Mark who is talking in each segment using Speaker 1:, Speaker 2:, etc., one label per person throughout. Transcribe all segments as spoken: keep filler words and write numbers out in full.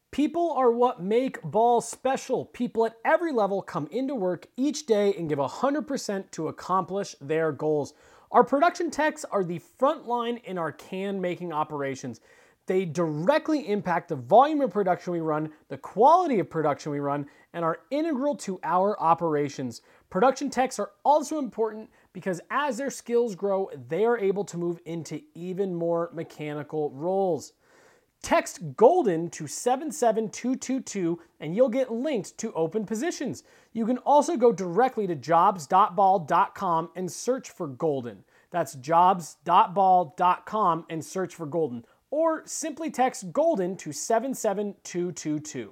Speaker 1: People are what make ball special. People at every level come into work each day and give one hundred percent to accomplish their goals. Our production techs are the front line in our can-making operations. They directly impact the volume of production we run, the quality of production we run, and are integral to our operations. Production techs are also important because as their skills grow, they are able to move into even more mechanical roles. Text GOLDEN to seven seven two two two and you'll get linked to open positions. You can also go directly to jobs dot ball dot com and search for Golden. That's jobs dot ball dot com and search for Golden. Or simply text GOLDEN to seven seven two two two.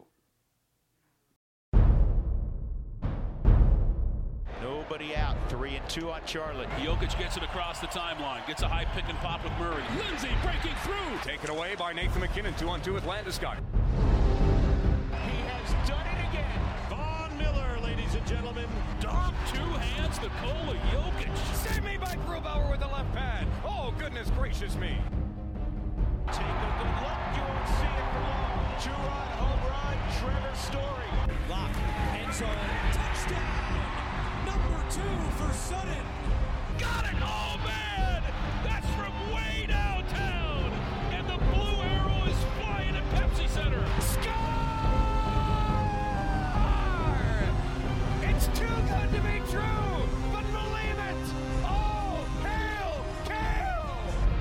Speaker 2: Nobody out. Three and two on Charlotte.
Speaker 3: Jokic gets it across the timeline. Gets a high pick and pop with Murray. Lindsay breaking through.
Speaker 4: Taken away by Nathan McKinnon. Two on two with Landeskog.
Speaker 2: He has done it again.
Speaker 3: Von Miller, ladies and gentlemen. Dunk two hands to Nikola Jokic.
Speaker 4: Save me by Grubauer with the left pad. Oh, goodness gracious me.
Speaker 2: Take a good look. You won't see it for long. Two-run home run. Trevor Story.
Speaker 5: Lock. End zone. Touchdown. Number two for Sutton.
Speaker 3: Got it! Oh, man! That's from way downtown! And the blue arrow is flying at Pepsi Center.
Speaker 4: Score! It's too good to be true, but believe it! Oh, hail, hail!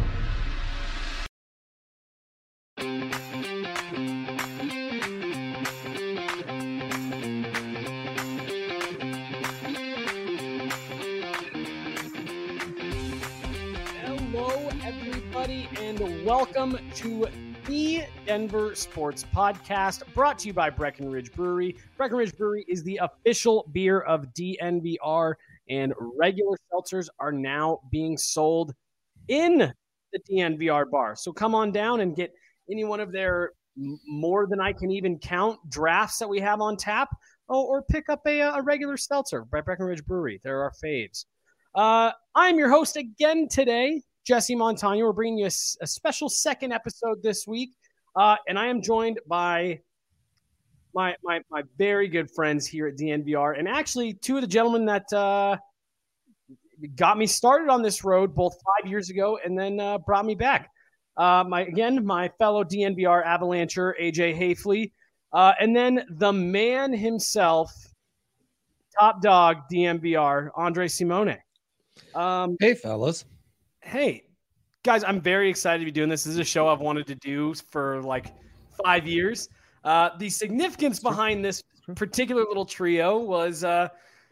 Speaker 1: Hello, everybody, and welcome to the Denver Sports Podcast, brought to you by Breckenridge Brewery. Breckenridge Brewery is the official beer of D N V R, and regular seltzers are now being sold in the D N V R bar. So come on down and get any one of their m- more than I can even count drafts that we have on tap, oh, or pick up a, a regular seltzer by Breckenridge Brewery. They're our faves. Uh, I'm your host again today, Jesse Montano. We're bringing you a, a special second episode this week, uh, and I am joined by my, my my very good friends here at D N V R, and actually two of the gentlemen that uh, got me started on this road both five years ago and then uh, brought me back. Uh, my again, my fellow D N V R Avalancher, A J Hafley, uh, and then the man himself, top dog D N V R, Andre Simone. Um,
Speaker 6: hey, fellas.
Speaker 1: Hey, guys, I'm very excited to be doing this. This is a show I've wanted to do for like five years. Uh, the significance behind this particular little trio was uh,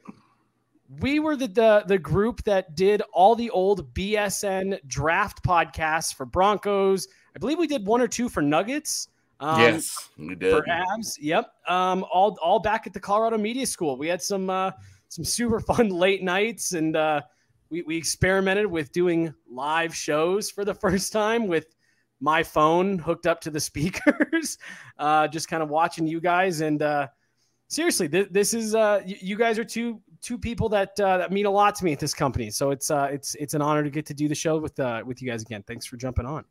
Speaker 1: we were the, the the group that did all the old B S N draft podcasts for Broncos. I believe we did one or two for Nuggets. Um,
Speaker 7: yes, we did.
Speaker 1: For Avs, yep. Um, all all back at the Colorado Media School. We had some uh, some super fun late nights, and uh, we we experimented with doing live shows for the first time with my phone hooked up to the speakers, uh, just kind of watching you guys. And uh, seriously, th- this is uh, y- you guys are two two people that uh, that mean a lot to me at this company. So it's uh, it's it's an honor to get to do the show with uh, with you guys again. Thanks for jumping on.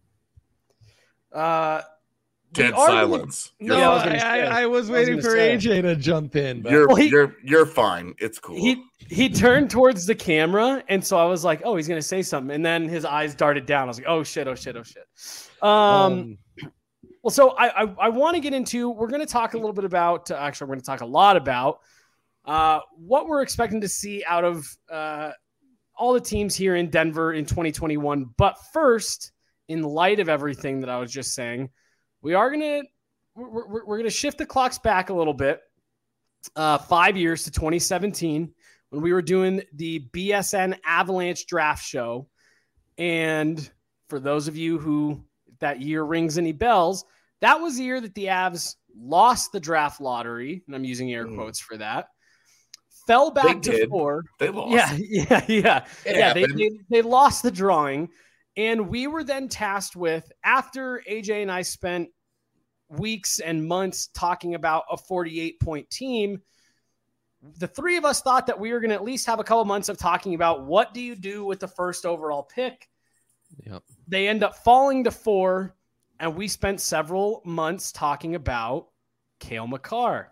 Speaker 1: Uh,
Speaker 7: Dead
Speaker 1: are-
Speaker 7: silence.
Speaker 6: No,
Speaker 1: Yeah, I was
Speaker 6: I,
Speaker 1: gonna say.
Speaker 6: I, I was
Speaker 1: I was
Speaker 6: waiting
Speaker 1: gonna
Speaker 6: for
Speaker 1: say.
Speaker 6: A J to jump in. But
Speaker 7: You're
Speaker 1: Well, he-
Speaker 7: you're you're fine. It's cool.
Speaker 1: He he turned towards the camera, and so I was like, "Oh, he's gonna say something," and then his eyes darted down. I was like, "Oh shit! Oh shit! Oh shit!" Um,
Speaker 6: um,
Speaker 1: well, so I I, I want to get into. We're going to talk a little bit about. Uh, actually, we're going to talk a lot about uh, what we're expecting to see out of uh, all the teams here in Denver in twenty twenty-one. But first, in light of everything that I was just saying, we are gonna we're, we're, we're gonna shift the clocks back a little bit. Uh, five years to twenty seventeen when we were doing the B S N Avalanche draft show. And for those of you who that year rings any bells, that was the year that the Avs lost the draft lottery. And I'm using air
Speaker 7: Mm.
Speaker 1: quotes for that. Fell back
Speaker 7: They
Speaker 1: to
Speaker 7: did.
Speaker 1: four.
Speaker 7: They lost.
Speaker 1: Yeah, yeah, yeah.
Speaker 7: It
Speaker 1: yeah, they,
Speaker 7: happened.
Speaker 1: they, they lost the drawing. And we were then tasked with, after A J and I spent weeks and months talking about a forty-eight point team, the three of us thought that we were going to at least have a couple months of talking about what do you do with the first overall pick.
Speaker 6: Yep.
Speaker 1: They end up falling to four. and we spent several months talking about Cale Makar.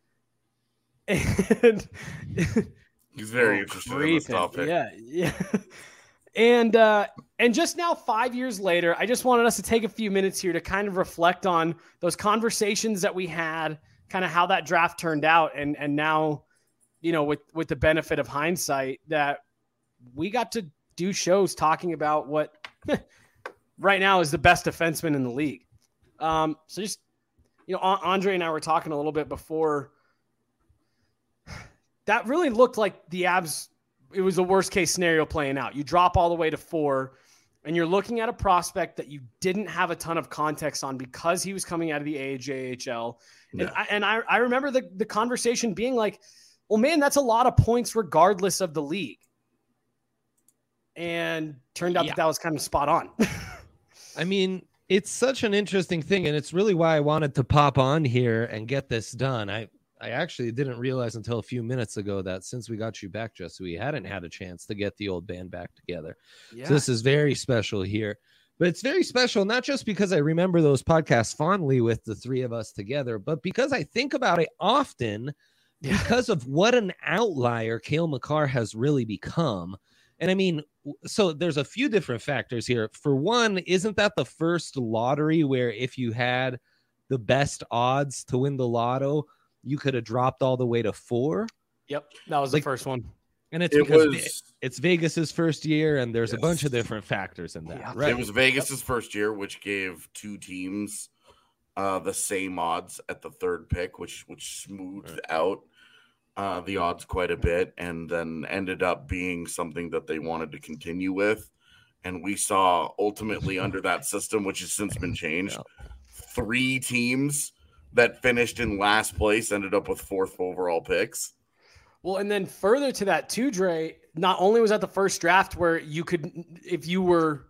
Speaker 1: And
Speaker 7: He's very
Speaker 1: oh,
Speaker 7: interested in this
Speaker 1: creeping.
Speaker 7: topic.
Speaker 1: Yeah, yeah. And uh, and just now, five years later, I just wanted us to take a few minutes here to kind of reflect on those conversations that we had, kind of how that draft turned out, and and now, you know, with with the benefit of hindsight, that we got to do shows talking about what right now is the best defenseman in the league. Um, so just, you know, Andre and I were talking a little bit before. That really looked like the Avs. It was the worst case scenario playing out. You drop all the way to four, and you're looking at a prospect that you didn't have a ton of context on because he was coming out of the A J H L. And,
Speaker 7: Yeah.
Speaker 1: I, and I, I remember the, the conversation being like, well, man, that's a lot of points regardless of the league. And turned out
Speaker 6: Yeah.
Speaker 1: that that was kind of spot on.
Speaker 6: I mean, it's such an interesting thing, and it's really why I wanted to pop on here and get this done. I, I actually didn't realize until a few minutes ago that since we got you back, Jesse, we hadn't had a chance to get the old band back together.
Speaker 1: Yeah.
Speaker 6: So this is very special here. But it's very special, not just because I remember those podcasts fondly with the three of us together, but because I think about it often
Speaker 1: Yeah.
Speaker 6: because of what an outlier Cale Makar has really become. And I mean, so there's a few different factors here. For one, isn't that the first lottery where if you had the best odds to win the lotto, you could have dropped all the way to four?
Speaker 1: Yep. That was
Speaker 6: Like-
Speaker 1: the first one.
Speaker 6: And it's
Speaker 7: It
Speaker 6: because
Speaker 7: was
Speaker 6: it's Vegas's first year, and there's a
Speaker 7: Yes.
Speaker 6: bunch of different factors in that.
Speaker 1: Yeah.
Speaker 6: Right.
Speaker 7: it was Vegas's first year, which gave two teams uh, the same odds at the third pick, which which smoothed
Speaker 6: Right.
Speaker 7: out uh, the odds quite a bit, and then ended up being something that they wanted to continue with. And we saw ultimately under that system, which has since been changed, three teams that finished in last place ended up with fourth overall picks.
Speaker 1: Well, and then further to that too, Dre, not only was that the first draft where you could, if you were,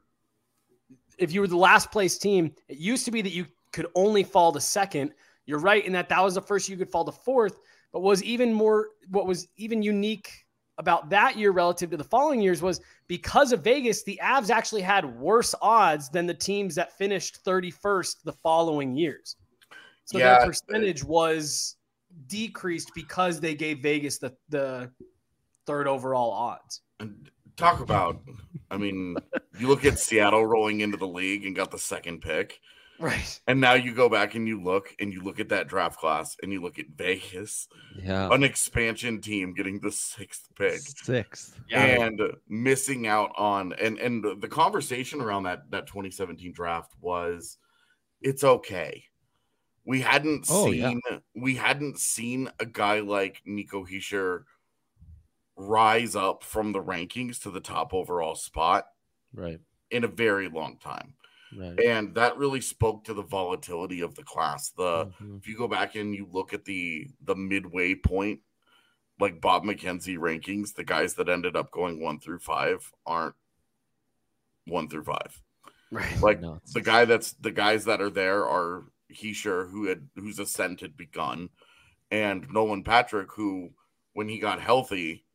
Speaker 1: if you were the last place team, it used to be that you could only fall to second. You're right in that that was the first you could fall to fourth, but was even more, what was even unique about that year relative to the following years was because of Vegas, the Avs actually had worse odds than the teams that finished thirty-first the following years. So
Speaker 7: Yeah.
Speaker 1: their percentage was decreased because they gave Vegas the, the third overall odds.
Speaker 7: And talk about, I mean, you look at Seattle rolling into the league and got the second pick.
Speaker 1: Right.
Speaker 7: And now you go back and you look and you look at that draft class and you look at Vegas,
Speaker 6: Yeah.
Speaker 7: an expansion team getting the sixth pick
Speaker 6: Sixth.
Speaker 7: and missing out on and and the conversation around that that twenty seventeen draft was it's okay. We hadn't
Speaker 6: Oh,
Speaker 7: seen we hadn't seen a guy like Nico Hischier rise up from the rankings to the top overall spot
Speaker 6: Right.
Speaker 7: in a very long time.
Speaker 6: Right.
Speaker 7: And that really spoke to the volatility of the class. The
Speaker 6: Mhm.
Speaker 7: if you go back and you look at the the midway point, like Bob McKenzie rankings, the guys that ended up going one through five aren't one through five.
Speaker 1: Right.
Speaker 7: Like
Speaker 6: Nuts.
Speaker 7: the guy that's the guys that are there are Hischier, who had whose ascent had begun, and Nolan Patrick, who when he got healthy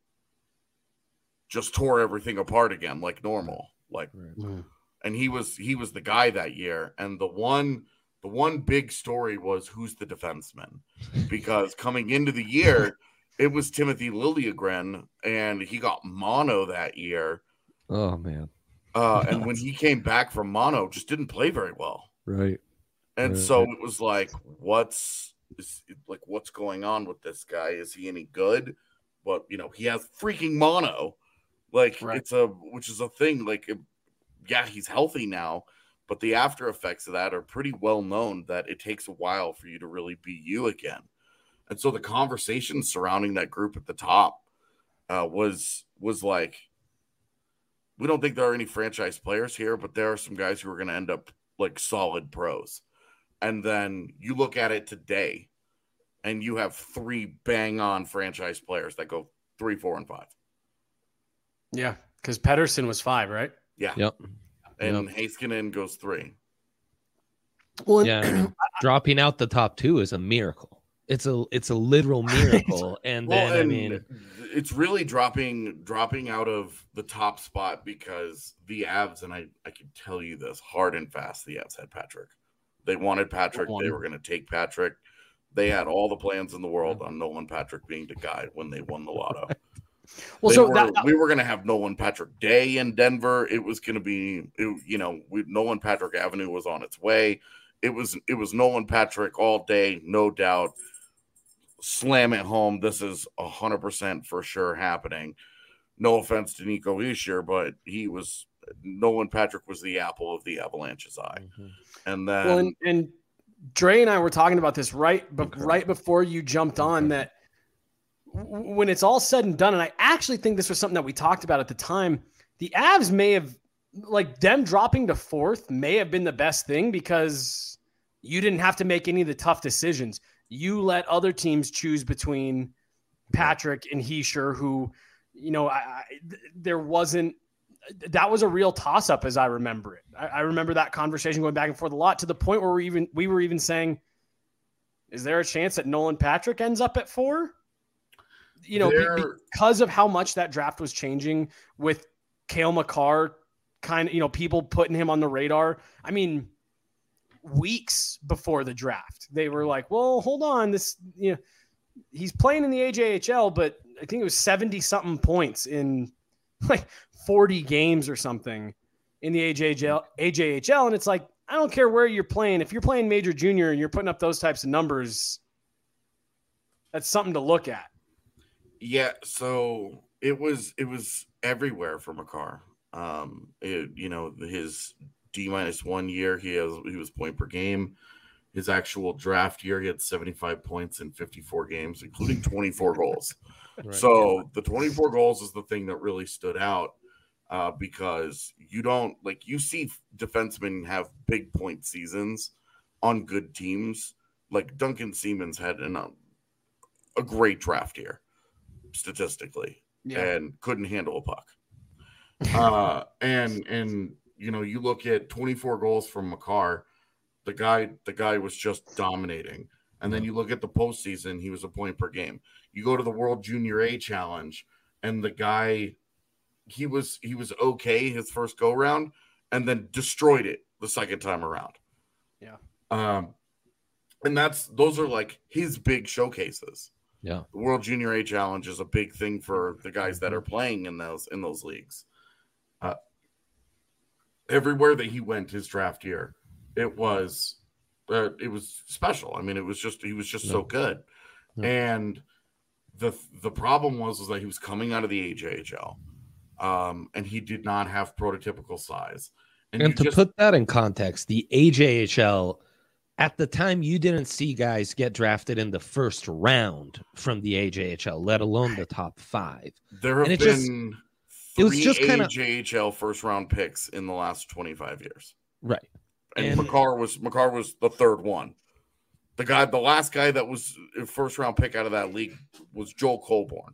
Speaker 7: just tore everything apart again like normal. Like
Speaker 6: Right.
Speaker 7: and he was he was the guy that year. And the one the one big story was who's the defenseman, because coming into the year it was Timothy Liljegren, and he got mono that year.
Speaker 6: Oh man.
Speaker 7: Uh, and when he came back from mono, just didn't play very well.
Speaker 6: Right.
Speaker 7: And
Speaker 6: Right.
Speaker 7: so it was like, what's is, like what's going on with this guy? Is he any good? But you know, he has freaking mono. Like
Speaker 1: Right.
Speaker 7: it's a which is a thing. Like, yeah, he's healthy now, but the after effects of that are pretty well known. That it takes a while for you to really be you again. And so the conversation surrounding that group at the top uh, was was like, we don't think there are any franchise players here, but there are some guys who are going to end up like solid pros. And then you look at it today, and you have three bang on franchise players that go three, four, and five.
Speaker 1: Yeah. Because Pedersen was five, right?
Speaker 7: Yeah.
Speaker 6: Yep.
Speaker 7: And Heiskanen goes three.
Speaker 1: Well,
Speaker 6: Yeah. I mean, dropping out the top two is a miracle. It's a it's a literal miracle. And
Speaker 7: Well,
Speaker 6: then I
Speaker 7: and
Speaker 6: mean,
Speaker 7: it's really dropping dropping out of the top spot because the Avs, and I, I can tell you this hard and fast, the Avs had Patrick. They wanted Patrick.
Speaker 1: One.
Speaker 7: They were going to take Patrick. They had all the plans in the world on Nolan Patrick being the guy when they won the lotto.
Speaker 1: Well,
Speaker 7: They
Speaker 1: so
Speaker 7: were-
Speaker 1: that,
Speaker 7: we were going to have Nolan Patrick Day in Denver. It was going to be, it, you know, we, Nolan Patrick Avenue was on its way. It was it was Nolan Patrick all day, no doubt. Slam it home. This is one hundred percent for sure happening. No offense to Nico Hischier, but he was Nolan Patrick was the apple of the Avalanche's eye.
Speaker 6: Mm-hmm.
Speaker 7: And then
Speaker 1: well, and, and Dre and I were talking about this right, but
Speaker 6: Okay.
Speaker 1: right before you jumped on
Speaker 6: Okay.
Speaker 1: that w- when it's all said and done, and I actually think this was something that we talked about at the time, the Avs may have, like them dropping to fourth may have been the best thing because you didn't have to make any of the tough decisions. You let other teams choose between Patrick and Hischier, who, you know, I, I, th- there wasn't, that was a real toss up as I remember it. I, I remember that conversation going back and forth a lot to the point where we even, we were even saying, is there a chance that Nolan Patrick ends up at four? You know, be-
Speaker 7: There-
Speaker 1: because of how much that draft was changing with Cale Makar, kind of, you know, people putting him on the radar. I mean, weeks before the draft, they were like, well, hold on, this, you know, he's playing in the A J H L, but I think it was seventy something points in like forty games or something in the A J H L, A J H L. And it's like, I don't care where you're playing. If you're playing major junior and you're putting up those types of numbers, that's something to look at.
Speaker 7: Yeah, so it was it was everywhere for Makar. Um, it, you know, his D minus one year, he has he was point per game. His actual draft year, he had seventy-five points in fifty-four games, including twenty-four goals.
Speaker 6: Right.
Speaker 7: So the twenty-four goals is the thing that really stood out uh, because you don't like you see defensemen have big point seasons on good teams. Like Duncan Siemens had an, um, a great draft year statistically and couldn't handle a puck. Uh, and and you know, you look at twenty-four goals from Makar, the guy the guy was just dominating. And then you look at the postseason, he was a point per game. You go to the World Junior A Challenge, and the guy, he was he was okay his first go round, and then destroyed it the second time around.
Speaker 1: Yeah.
Speaker 7: Um, and that's those are like his big showcases.
Speaker 6: Yeah.
Speaker 7: The World Junior A Challenge is a big thing for the guys that are playing in those in those leagues. Uh, everywhere that he went his draft year, it was uh, it was special. I mean, it was just he was just
Speaker 6: Yeah.
Speaker 7: so good.
Speaker 6: Yeah.
Speaker 7: And the the problem was was that he was coming out of the A J H L, um, and he did not have prototypical size.
Speaker 6: And,
Speaker 7: you
Speaker 6: to
Speaker 7: just-
Speaker 6: put that in context, the A J H L, at the time, you didn't see guys get drafted in the first round from the A J H L, let alone the top five.
Speaker 7: there have
Speaker 6: and it
Speaker 7: been
Speaker 6: just-
Speaker 7: three
Speaker 6: it was just kinda-
Speaker 7: A J H L first round picks in the last twenty-five years.
Speaker 6: Right.
Speaker 7: And,
Speaker 6: And-
Speaker 7: Makar was Makar was the third one. The guy, the last guy that was a first round pick out of that league was Joel Colborne.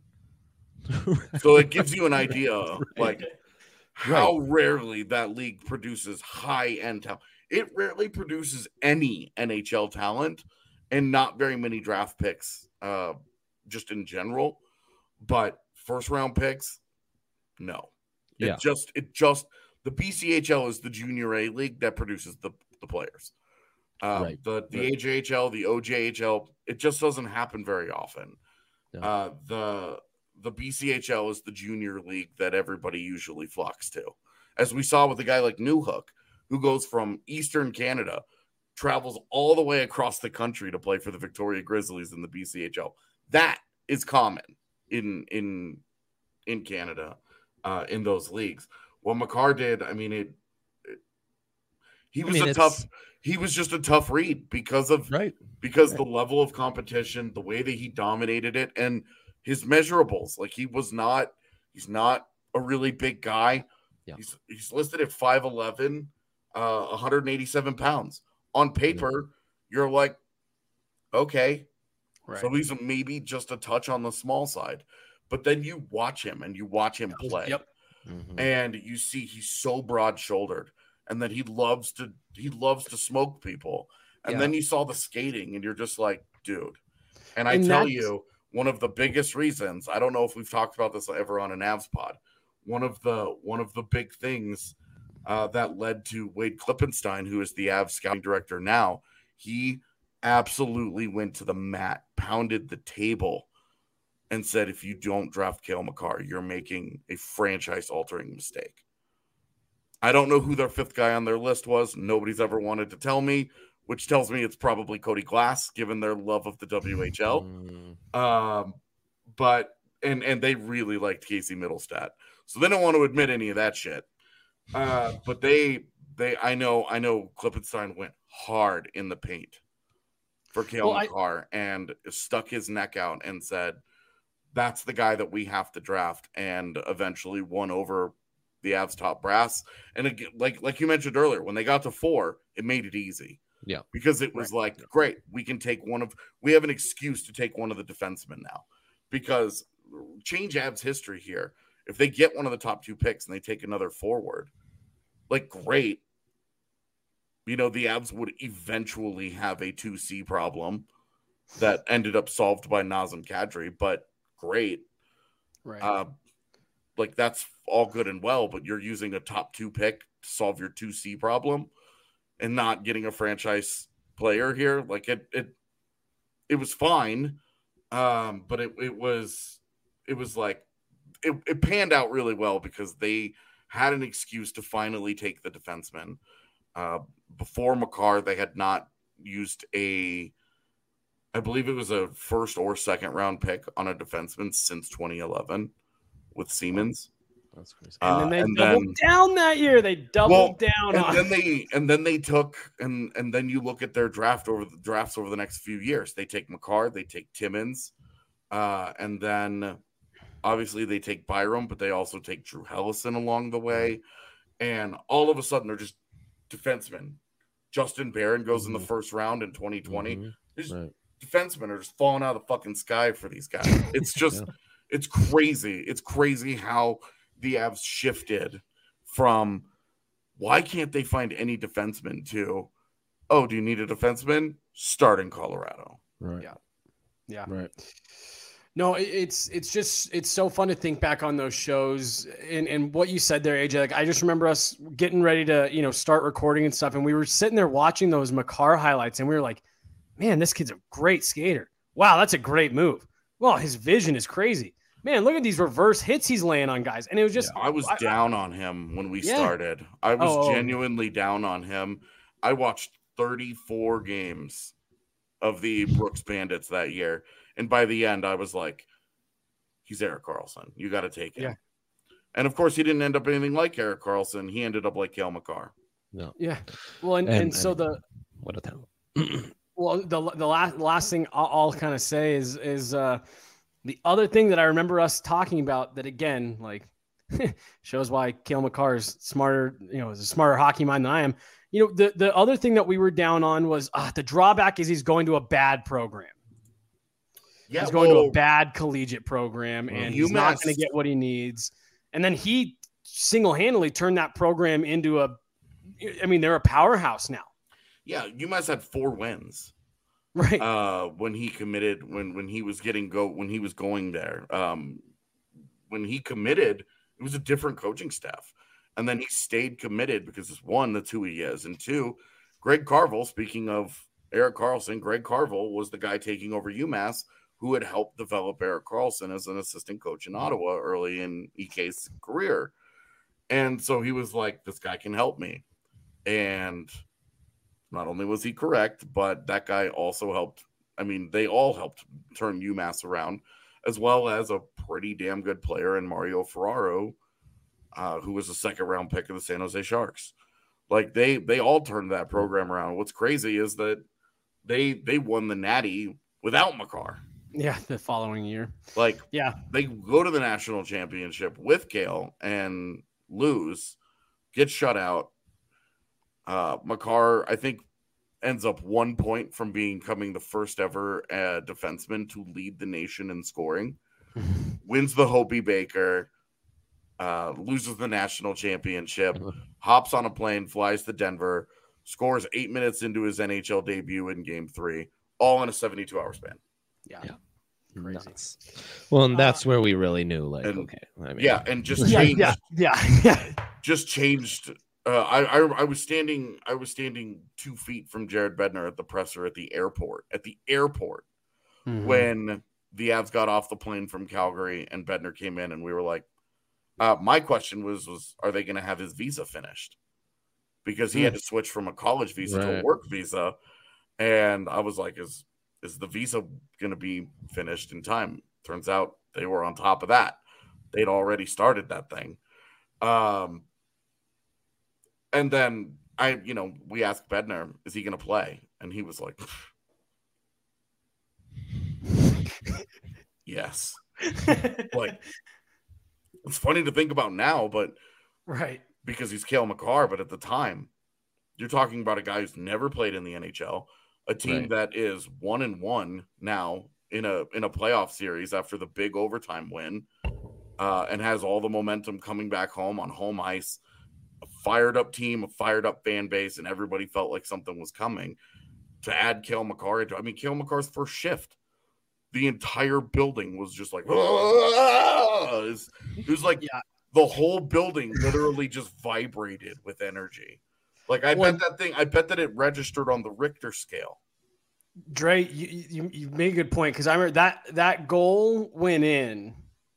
Speaker 7: So it gives you an idea, like how rarely that league produces high end talent. It rarely produces any N H L talent, and not very many draft picks, uh, just in general. But first round picks, no. It
Speaker 6: Yeah.
Speaker 7: just it just the B C H L is the junior A league that produces the, the players. Uh,
Speaker 6: Right.
Speaker 7: The the
Speaker 6: Right.
Speaker 7: A J H L, the O J H L, it just doesn't happen very often.
Speaker 6: Yeah.
Speaker 7: Uh, the the B C H L is the junior league that everybody usually flocks to, as we saw with a guy like Newhook, who goes from Eastern Canada, travels all the way across the country to play for the Victoria Grizzlies in the B C H L. That is common in in in Canada, uh, in those leagues. What Makar did, I mean, it. it he was
Speaker 6: I mean,
Speaker 7: a
Speaker 6: it's-
Speaker 7: tough. He was just a tough read because of
Speaker 6: Right.
Speaker 7: because
Speaker 6: Right.
Speaker 7: the level of competition, the way that he dominated it, and his measurables. Like he was not. He's not a really big guy.
Speaker 6: Yeah.
Speaker 7: He's he's listed at five eleven, uh, one hundred eighty-seven pounds. On paper, you're like, okay,
Speaker 1: Right.
Speaker 7: so he's maybe just a touch on the small side. But then you watch him and you watch him play,
Speaker 1: Yep.
Speaker 6: Mhm.
Speaker 7: and you see he's so broad-shouldered, and that he loves to he loves to smoke people. And
Speaker 1: Yeah.
Speaker 7: then you saw the skating, and you're just like, dude. And I
Speaker 1: And
Speaker 7: tell
Speaker 1: that's-
Speaker 7: you, one of the biggest reasons, I don't know if we've talked about this ever on an Avs pod, one of the one of the big things uh, that led to Wade Klippenstein, who is the Avs scouting director now. He absolutely went to the mat, pounded the table, and said, if you don't draft Cale Makar, you're making a franchise-altering mistake. I don't know who their fifth guy on their list was. Nobody's ever wanted to tell me, which tells me it's probably Cody Glass, given their love of the W H L. Mm. Um, but and and they really liked Casey Middlestat, so they don't want to admit any of that shit. Uh, but they they I know I know Klippenstein went hard in the paint for Cale well, Makar I... and stuck his neck out and said, that's the guy that we have to draft, and eventually won over the Avs top brass. And again, like like you mentioned earlier, when they got to four, it made it easy.
Speaker 6: Yeah,
Speaker 7: because it was right. like, great, we can take one of, we have an excuse to take one of the defensemen now. Because change Avs history here. If they get one of the top two picks and they take another forward, like, great. You know, the Avs would eventually have a two C problem that ended up solved by Nazem Kadri, but great.
Speaker 1: Right.
Speaker 7: Uh, like, that's all good and well, but you're using a top two pick to solve your two C problem and not getting a franchise player here. Like, it it it was fine. Um, but it, it was it was like it, it panned out really well because they had an excuse to finally take the defenseman. Uh, before Makar, they had not used a, I believe it was a first or second round pick on a defenseman since twenty eleven with Siemens.
Speaker 6: That's crazy.
Speaker 1: And then they
Speaker 7: uh, and
Speaker 1: doubled
Speaker 7: then,
Speaker 1: down that year. They doubled
Speaker 7: well,
Speaker 1: down.
Speaker 7: And
Speaker 1: on
Speaker 7: then they and then they took and and then you look at their draft over the drafts over the next few years. They take Makar, they take Timmins, uh, and then obviously they take Byram, but they also take Drew Hellison along the way. And all of a sudden they're just defensemen. Justin Barron goes mm-hmm. in the first round in twenty twenty. Mm-hmm. These right. defensemen are just falling out of the fucking sky for these guys. It's just yeah. it's crazy. It's crazy how the Avs shifted from why can't they find any defenseman to, oh, do you need a defenseman? Start in Colorado.
Speaker 6: Right.
Speaker 1: Yeah. Yeah.
Speaker 6: Right.
Speaker 1: No, it's it's just it's so fun to think back on those shows and, and what you said there, A J. Like, I just remember us getting ready to, you know, start recording and stuff, and we were sitting there watching those Makar highlights, and we were like, man, this kid's a great skater. Wow, that's a great move. Well, his vision is crazy. Man, look at these reverse hits he's laying on guys. And it was just
Speaker 7: yeah, I was I, down on him when we yeah. started. I was oh, genuinely down on him. I watched thirty-four games of the Brooks Bandits that year. And by the end, I was like, he's Erik Karlsson. You got to take him. Yeah. And, of course, he didn't end up anything like Erik Karlsson. He ended up like Cale Makar.
Speaker 6: No.
Speaker 1: Yeah. Well, and, and, and so
Speaker 6: and,
Speaker 1: the
Speaker 6: – what a talent.
Speaker 1: Well, the the last, last thing I'll, I'll kind of say is is uh, the other thing that I remember us talking about that, again, like shows why Cale Makar is smarter, you know, is a smarter hockey mind than I am. You know, the, the other thing that we were down on was uh, the drawback is he's going to a bad program. Yeah, he's going well, to a bad collegiate program, and he's not going to get what he needs. And then he single-handedly turned that program into a – I mean, they're a powerhouse now.
Speaker 7: Yeah, UMass had four wins.
Speaker 1: Right.
Speaker 7: Uh, when he committed, when when he was getting go, when he was going there. Um, when he committed, it was a different coaching staff. And then he stayed committed because, it's one, that's who he is. And two, Greg Carvel, speaking of Erik Karlsson, Greg Carvel was the guy taking over UMass who had helped develop Erik Karlsson as an assistant coach in Ottawa early in E K's career. And so he was like, this guy can help me. And not only was he correct, but that guy also helped. I mean, they all helped turn UMass around, as well as a pretty damn good player in Mario Ferraro, uh, who was a second round pick of the San Jose Sharks. Like, they they all turned that program around. What's crazy is that they they won the Natty without Makar.
Speaker 1: Yeah, the following year.
Speaker 7: Like,
Speaker 1: yeah,
Speaker 7: they go to the national championship with Cale and lose, get shut out. Uh, Makar, I think, ends up one point from becoming the first ever uh, defenseman to lead the nation in scoring. Wins the Hobey Baker, uh, loses the national championship, hops on a plane, flies to Denver, scores eight minutes into his N H L debut in game three, all in a seventy-two hour span.
Speaker 1: Yeah.
Speaker 6: yeah.
Speaker 1: Crazy.
Speaker 6: Nuts. Well, and that's uh, where we really knew, like,
Speaker 7: and,
Speaker 6: okay. I mean,
Speaker 7: yeah, and just
Speaker 1: yeah,
Speaker 7: changed.
Speaker 1: Yeah, yeah, yeah.
Speaker 7: Just changed Uh, I, I I was standing I was standing two feet from Jared Bednar at the presser at the airport at the airport mm-hmm. when the Avs got off the plane from Calgary and Bednar came in, and we were like, uh, my question was was are they going to have his visa finished, because he mm. had to switch from a college visa right. to a work visa, and I was like, is is the visa going to be finished in time? Turns out they were on top of that. They'd already started that thing. Um. And then I, you know, we asked Bednar, is he going to play? And he was like, yes. Like, it's funny to think about now, but
Speaker 1: right,
Speaker 7: because he's Cale Makar, but at the time, you're talking about a guy who's never played in the N H L, a team right. that is one and one now in a in a playoff series after the big overtime win, uh, and has all the momentum coming back home on home ice. A fired up team, a fired up fan base, and everybody felt like something was coming. To add Cale Makar into, I mean, Cale Makar's first shift, the entire building was just like, it was, it was like yeah. the whole building literally just vibrated with energy. Like I well, bet that thing, I bet that it registered on the Richter scale.
Speaker 1: Dre, you, you, you made a good point, because I remember that that goal went in,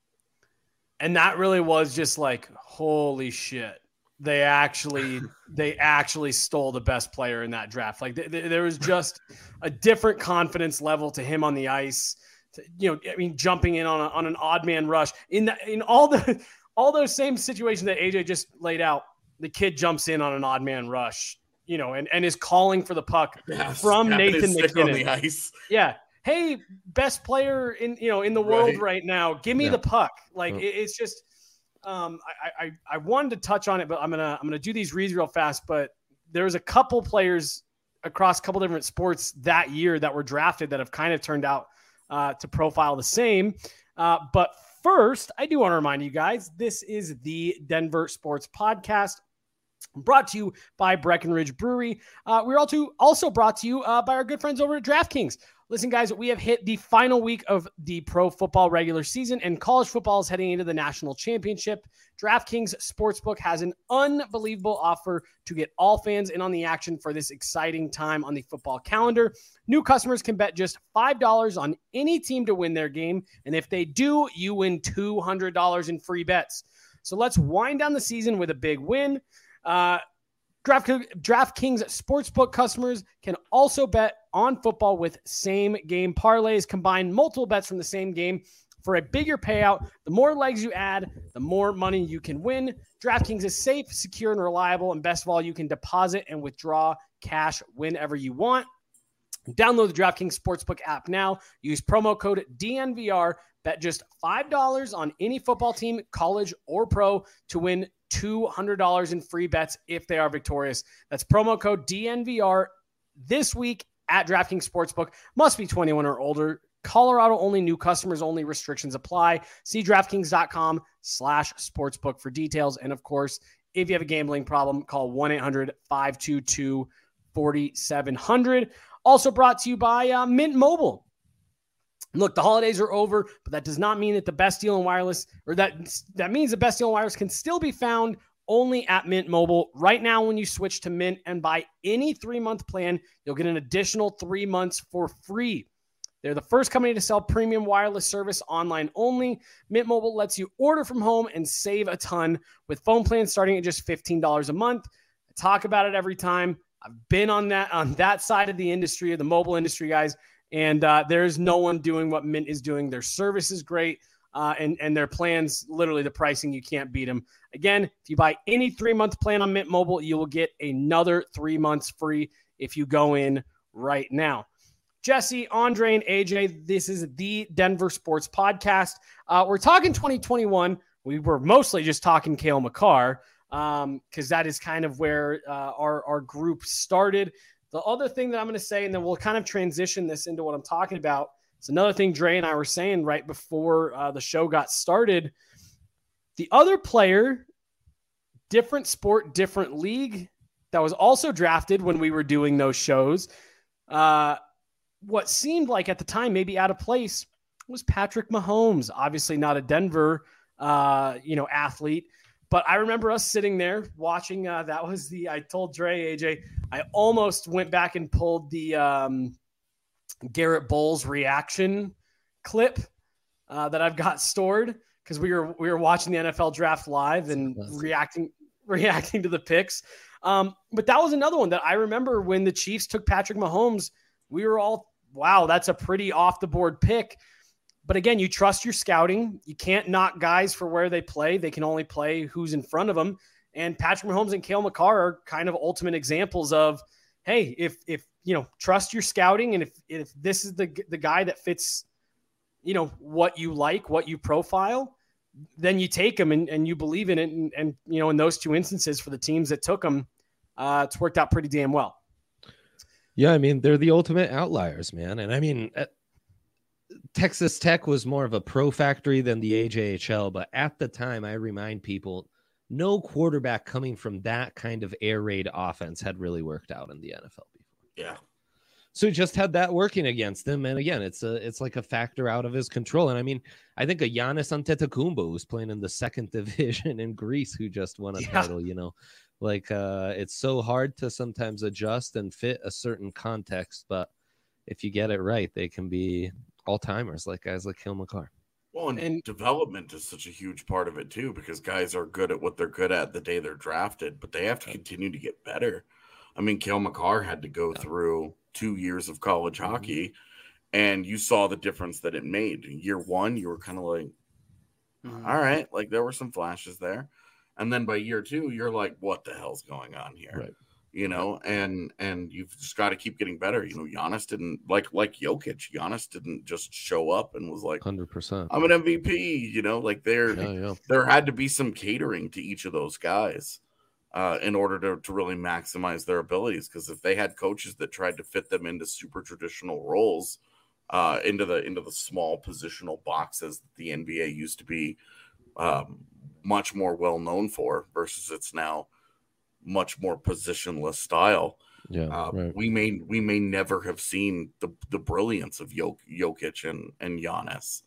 Speaker 1: and that really was just like, holy shit. They actually, they actually stole the best player in that draft. Like th- th- there was just a different confidence level to him on the ice. To, you know, I mean, jumping in on a, on an odd man rush in the, in all the all those same situations that A J just laid out. The kid jumps in on an odd man rush, you know, and, and is calling for the puck yes, from Nathan MacKinnon on the ice. Yeah, hey, best player in you know in the world right, right now. Give me yeah. the puck. Like it, it's just. Um, I, I, I wanted to touch on it, but I'm gonna I'm gonna do these reads real fast. But there's a couple players across a couple different sports that year that were drafted that have kind of turned out uh, to profile the same. Uh, but first, I do want to remind you guys, this is the Denver Sports Podcast, brought to you by Breckenridge Brewery. Uh, we're also also brought to you uh, by our good friends over at DraftKings. Listen, guys, we have hit the final week of the pro football regular season, and college football is heading into the national championship. DraftKings Sportsbook has an unbelievable offer to get all fans in on the action for this exciting time on the football calendar. New customers can bet just five dollars on any team to win their game, and if they do, you win two hundred dollars in free bets. So let's wind down the season with a big win. Uh, Draft, DraftKings Sportsbook customers can also bet on football with same-game parlays. Combine multiple bets from the same game for a bigger payout. The more legs you add, the more money you can win. DraftKings is safe, secure, and reliable. And best of all, you can deposit and withdraw cash whenever you want. Download the DraftKings Sportsbook app now. Use promo code D N V R. Bet just five dollars on any football team, college or pro, to win two hundred dollars in free bets if they are victorious. That's promo code D N V R this week at DraftKings Sportsbook. Must be twenty-one or older. Colorado only, new customers only, restrictions apply. See DraftKings.com slash sportsbook for details. And of course, if you have a gambling problem, call one eight hundred five two two four seven zero zero. Also brought to you by uh, Mint Mobile. Look, the holidays are over, but that does not mean that the best deal in wireless, or that that means the best deal in wireless can still be found only at Mint Mobile. Right now, when you switch to Mint and buy any three-month plan, you'll get an additional three months for free. They're the first company to sell premium wireless service online only. Mint Mobile lets you order from home and save a ton with phone plans starting at just fifteen dollars a month. I talk about it every time. I've been on that on that side of the industry, the mobile industry, guys. And uh, there's no one doing what Mint is doing. Their service is great, uh, and, and their plans, literally the pricing, you can't beat them. Again, if you buy any three-month plan on Mint Mobile, you will get another three months free if you go in right now. Jesse, Andre, and A J, this is the Denver Sports Podcast. Uh, we're talking twenty twenty-one. We were mostly just talking Cale Makar because um, that is kind of where uh, our, our group started. The other thing that I'm going to say, and then we'll kind of transition this into what I'm talking about, it's another thing Dre and I were saying right before uh, the show got started. The other player, different sport, different league, that was also drafted when we were doing those shows, uh, what seemed like at the time maybe out of place was Patrick Mahomes. Obviously not a Denver uh, you know, athlete, but I remember us sitting there watching. Uh, that was the, I told Dre, A J, I almost went back and pulled the um, Garrett Bowles reaction clip uh, that I've got stored because we were, we were watching the N F L draft live and reacting, reacting to the picks. Um, but that was another one that I remember when the Chiefs took Patrick Mahomes, we were all, wow, that's a pretty off the board pick. But again, you trust your scouting. You can't knock guys for where they play. They can only play who's in front of them. And Patrick Mahomes and Cale Makar are kind of ultimate examples of, hey, if, if, you know, trust your scouting. And if, if this is the, the guy that fits, you know, what you like, what you profile, then you take him and, and you believe in it. And, and, you know, in those two instances for the teams that took him, uh, it's worked out pretty damn well.
Speaker 6: Yeah. I mean, they're the ultimate outliers, man. And I mean, uh, Texas Tech was more of a pro factory than the A J H L, but at the time, I remind people, no quarterback coming from that kind of air raid offense had really worked out in the N F L before.
Speaker 7: Yeah.
Speaker 6: So he just had that working against him. And again, it's a, it's like a factor out of his control. And I mean, I think a Giannis Antetokounmpo who's playing in the second division in Greece, who just won a
Speaker 1: yeah.
Speaker 6: title, you know, like uh, it's so hard to sometimes adjust and fit a certain context, but if you get it right, they can be all-timers like guys like Cale Makar.
Speaker 7: Well, and,
Speaker 1: And-
Speaker 7: development is such a huge part of it too, because guys are good at what they're good at the day they're drafted, but they have to continue to get better. I mean, Cale Makar had to go
Speaker 6: Yeah.
Speaker 7: through two years of college
Speaker 6: Mm-hmm.
Speaker 7: hockey, and you saw the difference that it made. Year one, you were kind of like,
Speaker 1: Mhm.
Speaker 7: all right, like there were some flashes there. And then by year two, you're like, what the hell's going on here?
Speaker 6: Right.
Speaker 7: You know, and and you've just got to keep getting better. You know, Giannis didn't like like Jokic. Giannis didn't just show up and was like,
Speaker 6: one hundred percent.
Speaker 7: I'm an M V P. You know, like there
Speaker 6: Yeah, yeah.
Speaker 7: there had to be some catering to each of those guys uh, in order to to really maximize their abilities. Because if they had coaches that tried to fit them into super traditional roles, uh, into the into the small positional boxes that the N B A used to be um, much more well known for, versus it's now much more positionless style.
Speaker 6: Yeah,
Speaker 7: Uh,
Speaker 6: right.
Speaker 7: We may we may never have seen the, the brilliance of Jok- Jokic and and Giannis,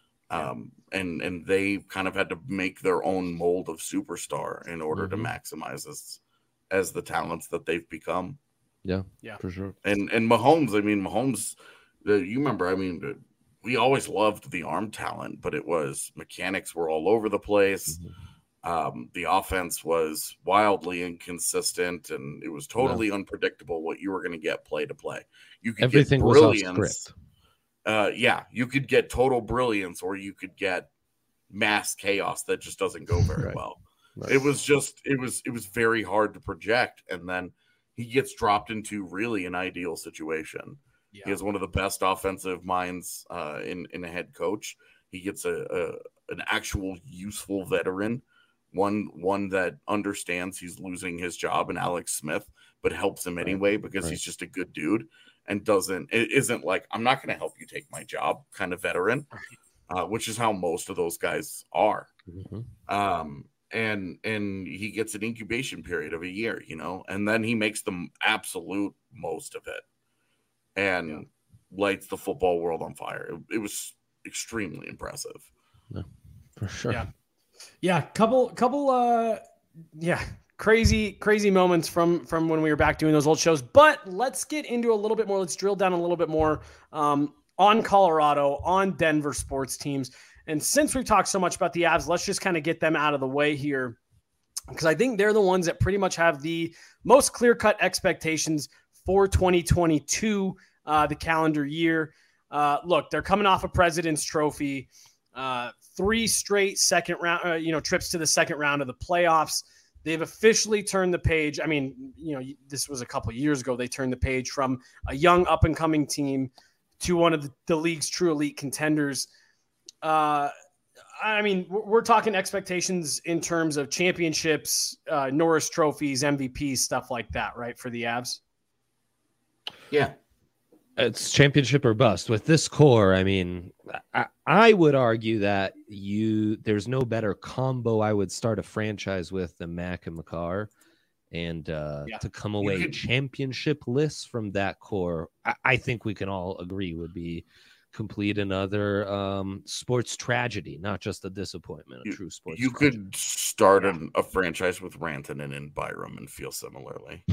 Speaker 7: um, and and they kind of had to make their own mold of superstar in order
Speaker 6: Mhm.
Speaker 7: to maximize as as the talents that they've become.
Speaker 6: Yeah,
Speaker 1: Yeah.
Speaker 6: for sure.
Speaker 7: And and Mahomes, I mean Mahomes, the, you remember? I mean, the, we always loved the arm talent, but it was mechanics were all over the place.
Speaker 6: Mhm.
Speaker 7: Um, the offense was wildly inconsistent, and it was totally unpredictable what you were going to get play to play. You could
Speaker 6: Everything
Speaker 7: get
Speaker 6: was off
Speaker 7: brilliance.
Speaker 6: script.
Speaker 7: Uh, yeah, you could get total brilliance, or you could get mass chaos that just doesn't go very
Speaker 6: Right.
Speaker 7: well.
Speaker 6: Right.
Speaker 7: It was just, it was, it was very hard to project, and then he gets dropped into really an ideal situation.
Speaker 1: Yeah.
Speaker 7: He has one of the best offensive minds uh, in in a head coach. He gets a, a an actual useful veteran. One one that understands he's losing his job in Alex Smith, but helps him anyway because
Speaker 6: right.
Speaker 7: he's just a good dude and doesn't it isn't like, I'm not going to help you take my job kind of veteran, uh, which is how most of those guys are.
Speaker 6: Mhm.
Speaker 7: Um, and and he gets an incubation period of a year, you know, and then he makes the absolute most of it and
Speaker 1: Yeah.
Speaker 7: lights the football world on fire. It, it was extremely impressive.
Speaker 6: For sure.
Speaker 1: Yeah. Yeah, couple, couple, uh, yeah, crazy, crazy moments from from when we were back doing those old shows. But let's get into a little bit more. Let's drill down a little bit more um, on Colorado, on Denver sports teams. And since we've talked so much about the Avs, let's just kind of get them out of the way here, because I think they're the ones that pretty much have the most clear-cut expectations for twenty twenty-two, uh, the calendar year. Uh, look, they're coming off a President's Trophy. Uh, three straight second round, uh, you know, trips to the second round of the playoffs. They've officially turned the page. I mean, you know, this was a couple of years ago. They turned the page from a young up and coming team to one of the, the league's true elite contenders. Uh, I mean, we're, we're talking expectations in terms of championships, uh, Norris trophies, M V Ps, stuff like that, right? For the Avs.
Speaker 7: Yeah.
Speaker 6: It's championship or bust with this core. I mean, I, I would argue that you there's no better combo I would start a franchise with than Mac and Makar, and uh,
Speaker 1: Yeah.
Speaker 6: to come away
Speaker 7: could-
Speaker 6: championship lists from that core, I, I think we can all agree would be complete another um, sports tragedy, not just a disappointment, a
Speaker 7: you,
Speaker 6: true sports
Speaker 7: You
Speaker 6: tragedy.
Speaker 7: could start an, a franchise with Rantanen and Byram and feel similarly.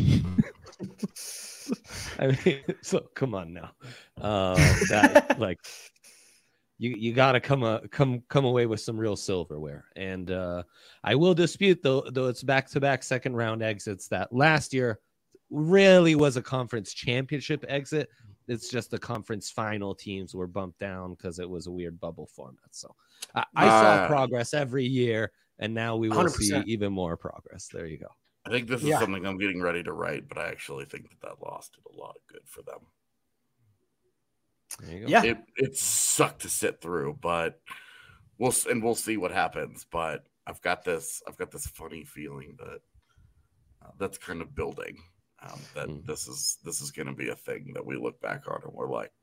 Speaker 6: I mean, so come on now. Uh, that, like, you you got to come uh, come come away with some real silverware. And uh, I will dispute, though, though it's back-to-back second-round exits, that last year really was a conference championship exit. It's just the conference final teams were bumped down because it was a weird bubble format. So I, I saw
Speaker 7: Uh,
Speaker 6: progress every year, and now we will
Speaker 1: one hundred percent.
Speaker 6: see even more progress. There you go.
Speaker 7: I think this is
Speaker 1: Yeah.
Speaker 7: something I'm getting ready to write, but I actually think that that loss did a lot of good for them.
Speaker 6: There you go.
Speaker 1: Yeah.
Speaker 7: It it sucked to sit through, but we'll and we'll see what happens. But I've got this I've got this funny feeling that uh, that's kind of building. Um, that
Speaker 6: Mm.
Speaker 7: this is this is going to be a thing that we look back on and we're like,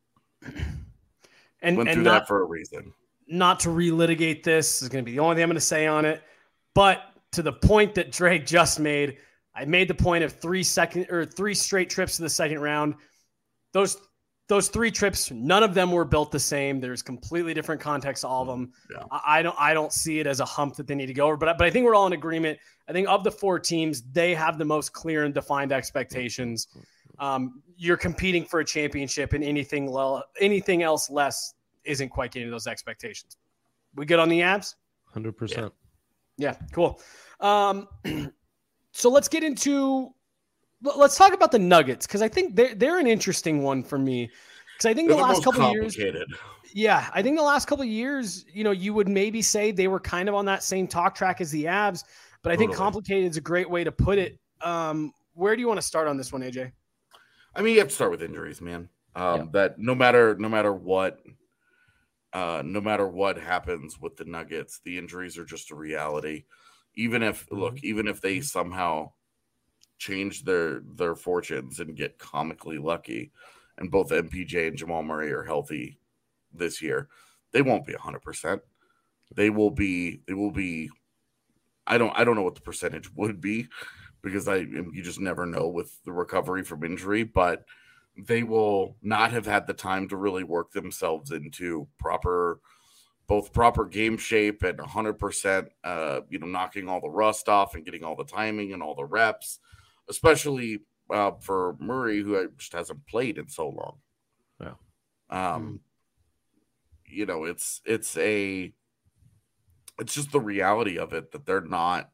Speaker 1: And,
Speaker 7: went
Speaker 1: and
Speaker 7: through
Speaker 1: not,
Speaker 7: that for a reason.
Speaker 1: not to relitigate this is going to be the only thing I'm going to say on it. But to the point that Drake just made, I made the point of three second or three straight trips to the second round. Those those three trips, none of them were built the same. There's completely different context to all of them.
Speaker 7: Yeah.
Speaker 1: I, I don't I don't see it as a hump that they need to go over. But but I think we're all in agreement. I think of the four teams, they have the most clear and defined expectations. Um, you're competing for a championship, and anything le- anything else less isn't quite getting those expectations. We good on the Avs?
Speaker 6: one hundred percent.
Speaker 1: Yeah, cool. Um, so let's get into let's talk about the Nuggets, because I think they're they're an interesting one for me. Because I think
Speaker 7: They're
Speaker 1: the
Speaker 7: the
Speaker 1: last
Speaker 7: most
Speaker 1: couple of years,
Speaker 7: complicated.
Speaker 1: yeah, I think the last couple of years, you know, you would maybe say they were kind of on that same talk track as the Avs, but I think
Speaker 7: Totally.
Speaker 1: complicated is a great way to put it. Um, where do you want to start on this one, A J?
Speaker 7: I mean, you have to start with injuries, man. Um,
Speaker 6: Yeah.
Speaker 7: That no matter no matter what, uh, no matter what happens with the Nuggets, the injuries are just a reality. Even if look, even if they somehow change their their fortunes and get comically lucky, and both M P J and Jamal Murray are healthy this year, they won't be a hundred percent. They will be. They will be. I don't. I don't know what the percentage would be, because I you just never know with the recovery from injury, but they will not have had the time to really work themselves into proper, both proper game shape and one hundred percent, uh, you know, knocking all the rust off and getting all the timing and all the reps, especially uh, for Murray, who just hasn't played in so long.
Speaker 6: Yeah.
Speaker 7: Um, you know, it's it's a it's just the reality of it that they're not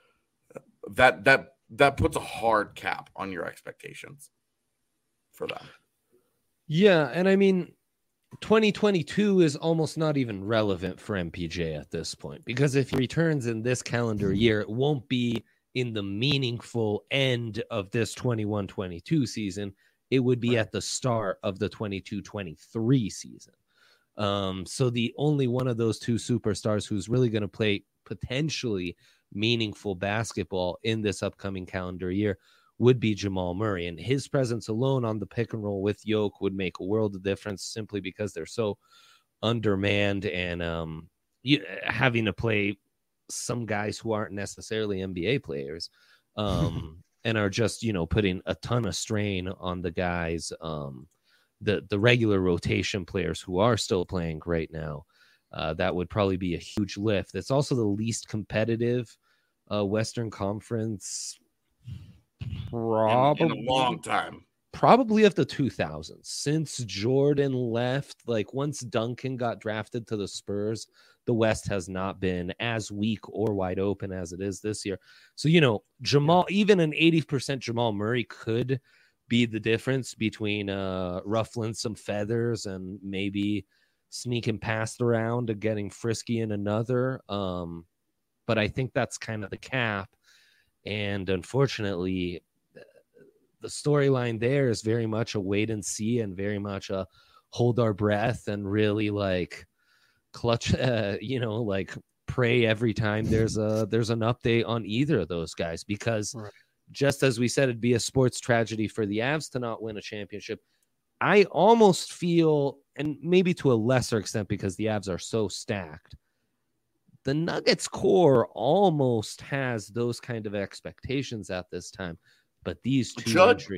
Speaker 7: that that that puts a hard cap on your expectations for them.
Speaker 6: Yeah, and I mean, twenty twenty-two is almost not even relevant for M P J at this point, because if he returns in this calendar year, it won't be in the meaningful end of this twenty-one twenty-two season. It would be at the start of the twenty-two twenty-three season. Um, so the only one of those two superstars who's really going to play potentially meaningful basketball in this upcoming calendar year would be Jamal Murray, and his presence alone on the pick and roll with Yoke would make a world of difference, simply because they're so undermanned, and um, you, having to play some guys who aren't necessarily N B A players, um, and are just, you know, putting a ton of strain on the guys, um, the the regular rotation players who are still playing right now. Uh, that would probably be a huge lift. It's also the least competitive uh, Western Conference. Probably
Speaker 7: in, in a long time.
Speaker 6: Probably of the two thousands, since Jordan left. Like, once Duncan got drafted to the Spurs, the West has not been as weak or wide open as it is this year. So, you know, Jamal, even an eighty percent Jamal Murray could be the difference between uh, ruffling some feathers and maybe sneaking past around and getting frisky in another. Um, but I think that's kind of the cap. And unfortunately, the storyline there is very much a wait and see, and very much a hold our breath and really like clutch, uh, you know, like pray every time there's a there's an update on either of those guys, because
Speaker 1: Right.
Speaker 6: just as we said, it'd be a sports tragedy for the Avs to not win a championship. I almost feel, and maybe to a lesser extent because the Avs are so stacked, the Nuggets core almost has those kind of expectations at this time. But these two
Speaker 7: Should.
Speaker 6: injuries,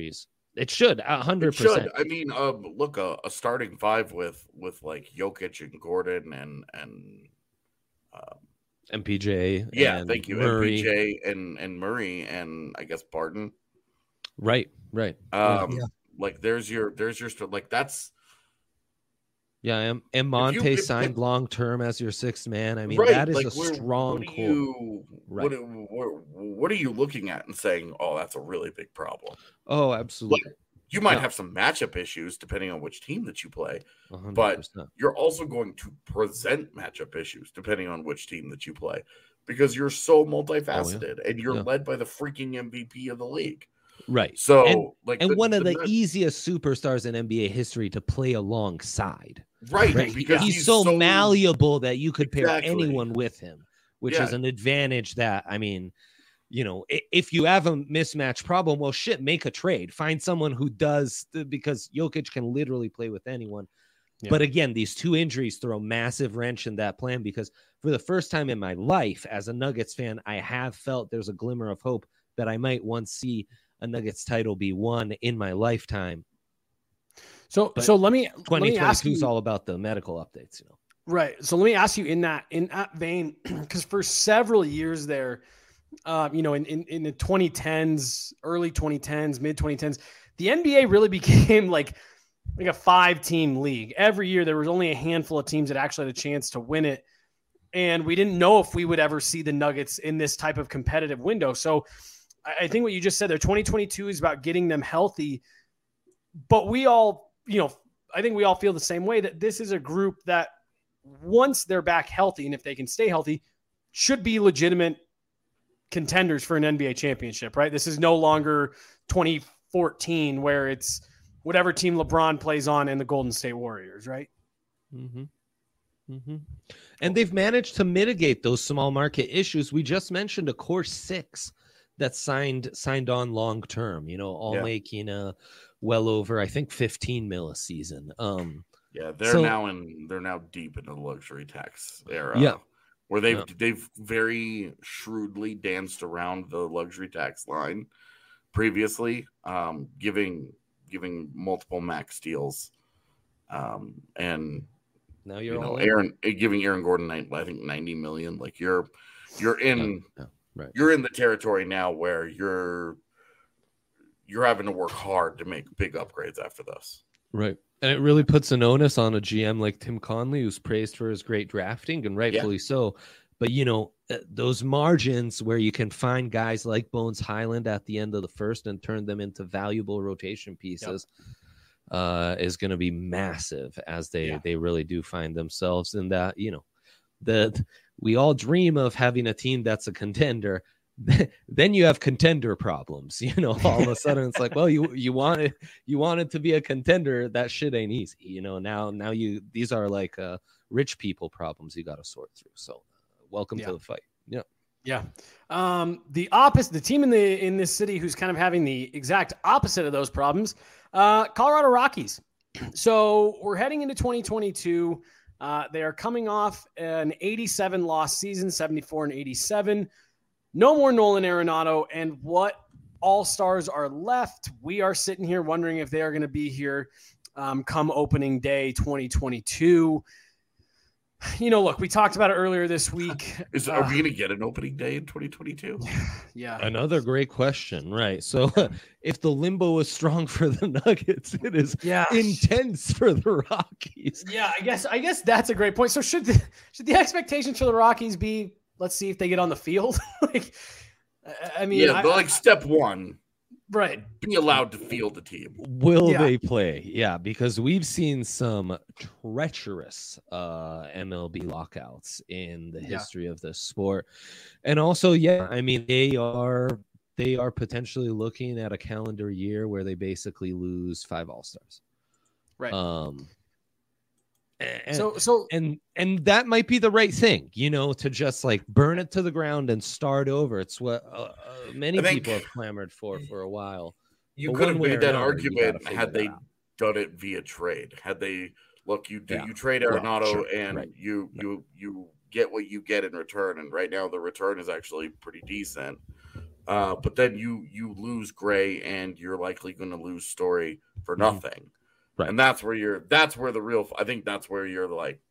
Speaker 6: It should a hundred
Speaker 7: It should.
Speaker 6: percent.
Speaker 7: I mean, um, look, a, a starting five with with like Jokic and Gordon and and um,
Speaker 6: M P J.
Speaker 7: yeah,
Speaker 6: and
Speaker 7: thank you,
Speaker 6: Murray.
Speaker 7: M P J and and Murray and I guess Barton.
Speaker 6: Right, right.
Speaker 7: Um,
Speaker 8: Yeah.
Speaker 7: like there's your there's your st- like that's
Speaker 6: Yeah, and, and Monte
Speaker 7: If you- if-
Speaker 6: signed
Speaker 7: if-
Speaker 6: long term as your sixth man. I mean,
Speaker 7: right.
Speaker 6: that is
Speaker 7: like,
Speaker 6: a
Speaker 7: where-
Speaker 6: strong
Speaker 7: What do
Speaker 6: core.
Speaker 7: you
Speaker 6: Right.
Speaker 7: what, what what are you looking at and saying? Oh, that's a really big problem.
Speaker 6: Oh, absolutely.
Speaker 7: You might
Speaker 6: Yeah.
Speaker 7: have some matchup issues depending on which team that you play.
Speaker 6: one hundred
Speaker 7: but-
Speaker 6: percent.
Speaker 7: You're also going to present matchup issues depending on which team that you play because you're so multifaceted and you're
Speaker 6: Yeah.
Speaker 7: led by the freaking M V P of the league.
Speaker 6: Right.
Speaker 7: So,
Speaker 6: And-
Speaker 7: like,
Speaker 6: And one of the
Speaker 7: Nets-
Speaker 6: easiest superstars in N B A history to play alongside.
Speaker 7: right,
Speaker 6: Right.
Speaker 7: because
Speaker 6: he's,
Speaker 7: he's,
Speaker 6: so, malleable that you could pair
Speaker 7: Exactly.
Speaker 6: anyone with him, which
Speaker 7: Yeah.
Speaker 6: is an advantage that, I mean, you know, i- if you have a mismatch problem, well, shit, make a trade. Find someone who does, because Jokic can literally play with anyone.
Speaker 1: Yeah.
Speaker 6: But again, these two injuries throw a massive wrench in that plan because for the first time in my life as a Nuggets fan, I have felt there's a glimmer of hope that I might once see a Nuggets title be won in my lifetime.
Speaker 1: So
Speaker 6: But
Speaker 1: so let me let me ask
Speaker 6: twenty twenty-two is
Speaker 1: you,
Speaker 6: all about the medical updates, you know.
Speaker 1: right. So let me ask you in that in that vein, because for several years there, uh, you know, in, in in the twenty tens, early twenty tens, mid twenty tens, the N B A really became like like a five team league. Every year there was only a handful of teams that actually had a chance to win it. And we didn't know if we would ever see the Nuggets in this type of competitive window. So I I think what you just said there, twenty twenty-two is about getting them healthy. But we all, you know, I think we all feel the same way that this is a group that once they're back healthy, and if they can stay healthy, should be legitimate contenders for an N B A championship, right? This is no longer twenty fourteen where it's whatever team LeBron plays on and the Golden State Warriors, right?
Speaker 6: Mm-hmm. Mm-hmm. And they've managed to mitigate those small market issues. We just mentioned a core six that signed signed on long term, you know, all
Speaker 7: Yeah.
Speaker 6: making uh well over, I think, fifteen mil a season. Um,
Speaker 7: Yeah, they're
Speaker 6: So-
Speaker 7: now in they're now deep into the luxury tax era.
Speaker 6: Yeah.
Speaker 7: Where they've
Speaker 6: Yeah.
Speaker 7: they've very shrewdly danced around the luxury tax line previously, um, giving giving multiple max deals. Um, and
Speaker 6: now you're
Speaker 7: you know,
Speaker 6: all in.
Speaker 7: Aaron giving Aaron Gordon nine- I think ninety million. Like you're you're in
Speaker 6: Yeah, right.
Speaker 7: you're in the territory now where you're you're having to work hard to make big upgrades after this.
Speaker 6: Right. And it really puts an onus on a G M like Tim Conley, who's praised for his great drafting, and rightfully so. But, you know, uh, those margins where you can find guys like Bones Highland at the end of the first and turn them into valuable rotation pieces uh, is going to be massive as they,
Speaker 1: Yeah.
Speaker 6: they really do find themselves in that, you know, the we all dream of having a team that's a contender. Then you have contender problems, you know. All of a sudden, it's like, well, you you wanted you wanted to be a contender. That shit ain't easy, you know. Now, now you these are like uh, rich people problems you got to sort through. So, uh, welcome
Speaker 1: Yeah.
Speaker 6: to the fight. Yeah,
Speaker 1: Yeah. Um, the opposite, the team in the in this city who's kind of having the exact opposite of those problems, uh, Colorado Rockies. So we're heading into twenty twenty-two. Uh, they are coming off an eighty-seven loss season, seventy-four and eighty-seven. No more Nolan Arenado, and what all-stars are left? We are sitting here wondering if they are going to be here um, come opening day twenty twenty-two. You know, look, we talked about it earlier this week.
Speaker 7: Is
Speaker 1: Uh,
Speaker 7: are we going to get an opening day in twenty twenty-two?
Speaker 1: Yeah.
Speaker 6: another great question, right? So, if the limbo is strong for the Nuggets, it is
Speaker 1: Yeah.
Speaker 6: intense for the Rockies.
Speaker 1: Yeah, I guess I guess that's a great point. So should the, should the expectations for the Rockies be, let's see if they get on the field? Like, I- I mean,
Speaker 7: Yeah,
Speaker 1: I-
Speaker 7: but like step one,
Speaker 1: right.
Speaker 7: be allowed to field the team.
Speaker 6: Will
Speaker 1: Yeah.
Speaker 6: they play? Yeah, because we've seen some treacherous uh, M L B lockouts in the
Speaker 1: Yeah.
Speaker 6: history of the sport, and also, yeah, I mean they are they are potentially looking at a calendar year where they basically lose five All Stars.
Speaker 1: Right.
Speaker 6: Um. And,
Speaker 1: so so
Speaker 6: and and that might be the right thing, you know, to just like burn it to the ground and start over. It's what uh, uh, many
Speaker 7: I think-
Speaker 6: people have clamored for for a while.
Speaker 7: You
Speaker 6: But
Speaker 7: could have
Speaker 6: one way
Speaker 7: made
Speaker 6: or
Speaker 7: that
Speaker 6: another, you gotta
Speaker 7: argument
Speaker 6: figure
Speaker 7: had
Speaker 6: that
Speaker 7: they
Speaker 6: out.
Speaker 7: done it via trade. Had they look, you do
Speaker 6: Yeah.
Speaker 7: you trade
Speaker 6: Well,
Speaker 7: Arenado
Speaker 6: sure,
Speaker 7: and
Speaker 6: right.
Speaker 7: you you you get what you get in return, and right now the return is actually pretty decent. Uh, but then you you lose Gray, and you're likely going to lose Story for nothing. Mm-hmm. Right. And that's where you're. That's where the real. I think that's where you're like.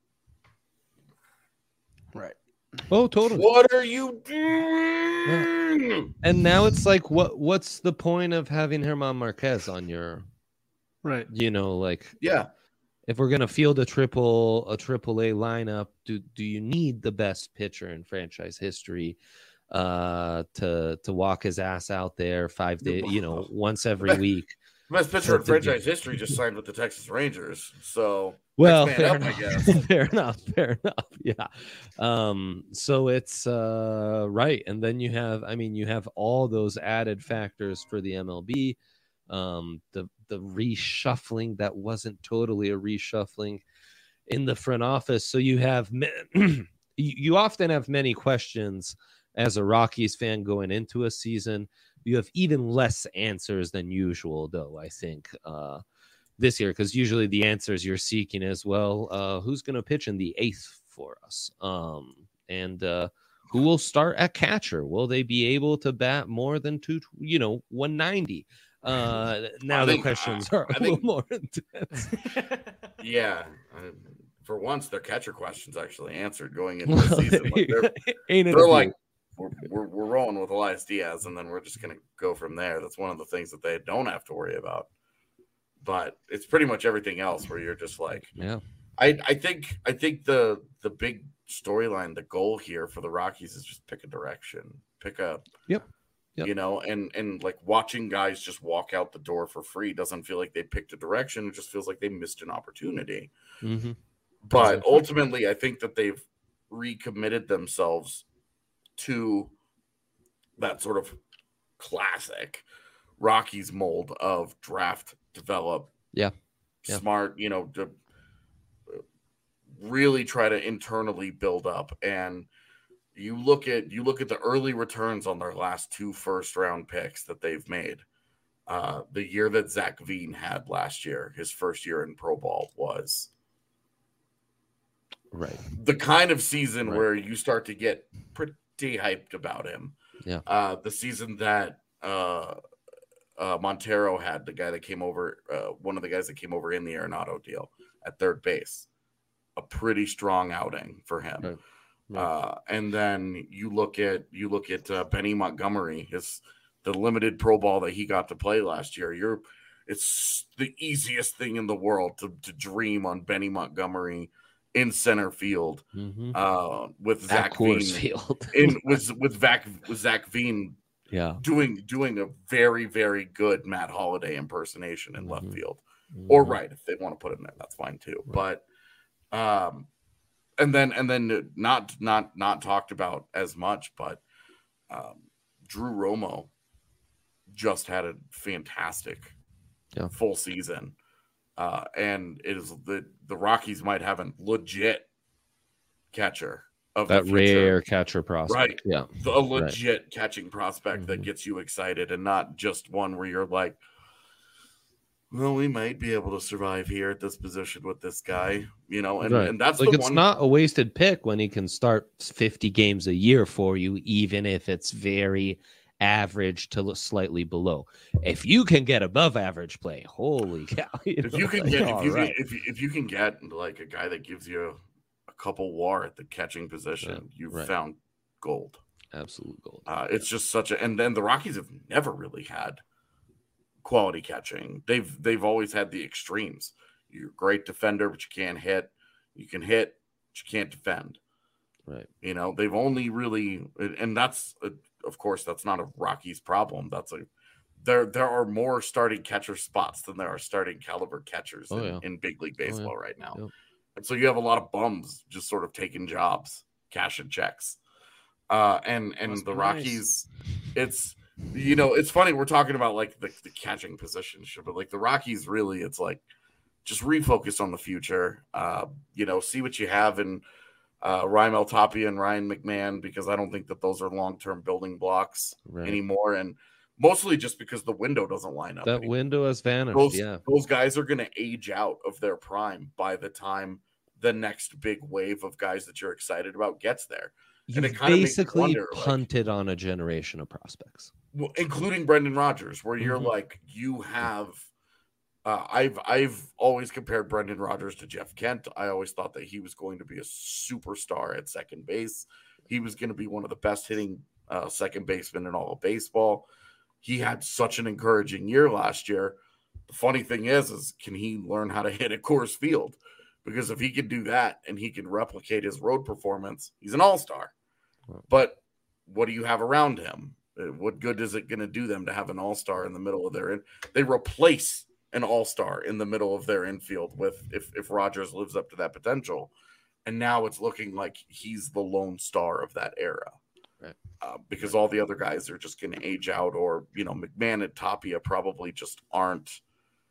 Speaker 1: Right.
Speaker 6: Oh, totally.
Speaker 7: What are you doing?
Speaker 6: Yeah. And now it's like, what? What's the point of having German Marquez on your?
Speaker 1: Right.
Speaker 6: You know, like.
Speaker 7: Yeah.
Speaker 6: If we're gonna field a triple a triple A lineup, do do you need the best pitcher in franchise history uh, to to walk his ass out there five days, you know, once every week?
Speaker 7: The best pitcher in franchise history just signed with the Texas Rangers. So
Speaker 6: well, fair,
Speaker 7: up,
Speaker 6: enough.
Speaker 7: I guess.
Speaker 6: fair enough, fair enough. Yeah. Um, so it's uh, right, and then you have, I mean, you have all those added factors for the M L B. Um, the the reshuffling that wasn't totally a reshuffling in the front office. So you have you often have many questions as a Rockies fan going into a season. You have even less answers than usual, though, I think, uh, this year, because usually the answers you're seeking as well, uh, who's going to pitch in the eighth for us? Um, and uh, who will start at catcher? Will they be able to bat more than two, you know, one ninety? Uh, now I the think, questions are I a think, little more intense.
Speaker 7: Yeah. Uh, for once, their catcher questions actually answered going into the season. Like they're
Speaker 6: Ain't
Speaker 7: they're like, we're, we're, we're rolling with Elias Diaz, and then we're just going to go from there. That's one of the things that they don't have to worry about. But it's pretty much everything else where you're just like,
Speaker 6: yeah.
Speaker 7: I, I think I think the the big storyline, the goal here for the Rockies is just pick a direction, pick a
Speaker 6: yep. Yep.
Speaker 7: You know, and and like watching guys just walk out the door for free doesn't feel like they picked a direction. It just feels like they missed an opportunity.
Speaker 6: Mm-hmm.
Speaker 7: But
Speaker 6: exactly.
Speaker 7: ultimately, I think that they've recommitted themselves to that sort of classic Rockies mold of draft, develop,
Speaker 6: yeah, yeah.
Speaker 7: smart, you know, to really try to internally build up. And You look at you look at the early returns on their last two first round picks that they've made. Uh, the year that Zach Veen had last year, his first year in pro ball, was
Speaker 6: right
Speaker 7: the kind of season
Speaker 6: right.
Speaker 7: where you start to get pretty hyped about him.
Speaker 6: Yeah,
Speaker 7: uh, the season that uh, uh, Montero had, the guy that came over, uh, one of the guys that came over in the Arenado deal at third base, a pretty strong outing for him.
Speaker 6: Right.
Speaker 7: Right. Uh, and then you look at you look at uh, Benny Montgomery, his the limited pro ball that he got to play last year. You're, it's the easiest thing in the world to to dream on Benny Montgomery in center field
Speaker 6: mm-hmm.
Speaker 7: uh, with
Speaker 6: At
Speaker 7: Zach
Speaker 6: Coors
Speaker 7: Veen
Speaker 6: Field.
Speaker 7: in with with Zach with Zach Veen,
Speaker 6: yeah,
Speaker 7: doing doing a very very good Matt Holliday impersonation in mm-hmm. left field
Speaker 6: mm-hmm.
Speaker 7: or right if they want to put him there, that's fine too. Right. But um. And then, and then, not not not talked about as much, but um, Drew Romo just had a fantastic
Speaker 6: yeah.
Speaker 7: full season, uh, and it is the the Rockies might have a legit catcher of
Speaker 6: that
Speaker 7: the future.
Speaker 6: Rare catcher prospect,
Speaker 7: right?
Speaker 6: Yeah,
Speaker 7: a legit right. catching prospect
Speaker 6: mm-hmm.
Speaker 7: that gets you excited, and not just one where you're like, well, we might be able to survive here at this position with this guy, you know, and,
Speaker 6: right.
Speaker 7: and that's
Speaker 6: like
Speaker 7: the
Speaker 6: it's
Speaker 7: one...
Speaker 6: not a wasted pick when he can start fifty games a year for you, even if it's very average to slightly below. If you can get above average play, holy cow! You
Speaker 7: if
Speaker 6: know,
Speaker 7: you can
Speaker 6: like,
Speaker 7: get, if you,
Speaker 6: right.
Speaker 7: can, if you if you can get like a guy that gives you a couple W A R at the catching position, yeah, you've
Speaker 6: right.
Speaker 7: found gold,
Speaker 6: absolute gold.
Speaker 7: Uh, it's just such a, and then the Rockies have never really had quality catching. They've they've always had the extremes. You're a great defender, but you can't hit. You can hit, but you can't defend.
Speaker 6: Right.
Speaker 7: You know, they've only really, and that's a, of course that's not a Rockies problem. That's a there there are more starting catcher spots than there are starting caliber catchers
Speaker 6: oh,
Speaker 7: in,
Speaker 6: yeah.
Speaker 7: in big league baseball
Speaker 6: oh, yeah.
Speaker 7: right now.
Speaker 6: Yep.
Speaker 7: And so you have a lot of bums just sort of taking jobs, cashing checks. Uh, and and Must the Rockies, nice. it's you know, it's funny we're talking about like the, the catching position, but like the Rockies really, it's like just refocus on the future. Uh, you know, see what you have in uh, Raimel Tapia and Ryan McMahon, because I don't think that those are long-term building blocks right. anymore. And mostly just because the window doesn't line up.
Speaker 6: That
Speaker 7: anymore.
Speaker 6: window has vanished.
Speaker 7: Those,
Speaker 6: yeah.
Speaker 7: those guys are going to age out of their prime by the time the next big wave of guys that you're excited about gets there.
Speaker 6: You basically wonder, punted like, on a generation of prospects.
Speaker 7: well, including Brendan Rodgers, where you're
Speaker 6: Mhm.
Speaker 7: like, you have. Uh, I've I've always compared Brendan Rodgers to Jeff Kent. I always thought that he was going to be a superstar at second base. He was going to be one of the best hitting uh, second basemen in all of baseball. He had such an encouraging year last year. The funny thing is, is can he learn how to hit at Coors Field? Because if he can do that and he can replicate his road performance, he's an all-star. But what do you have around him? What good is it going to do them to have an all-star in the middle of their in? They replace an all-star in the middle of their infield with if if Rodgers lives up to that potential. And now it's looking like he's the lone star of that era.
Speaker 6: Right.
Speaker 7: Uh, because all the other guys are just going to age out, or, you know, McMahon and Tapia probably just aren't,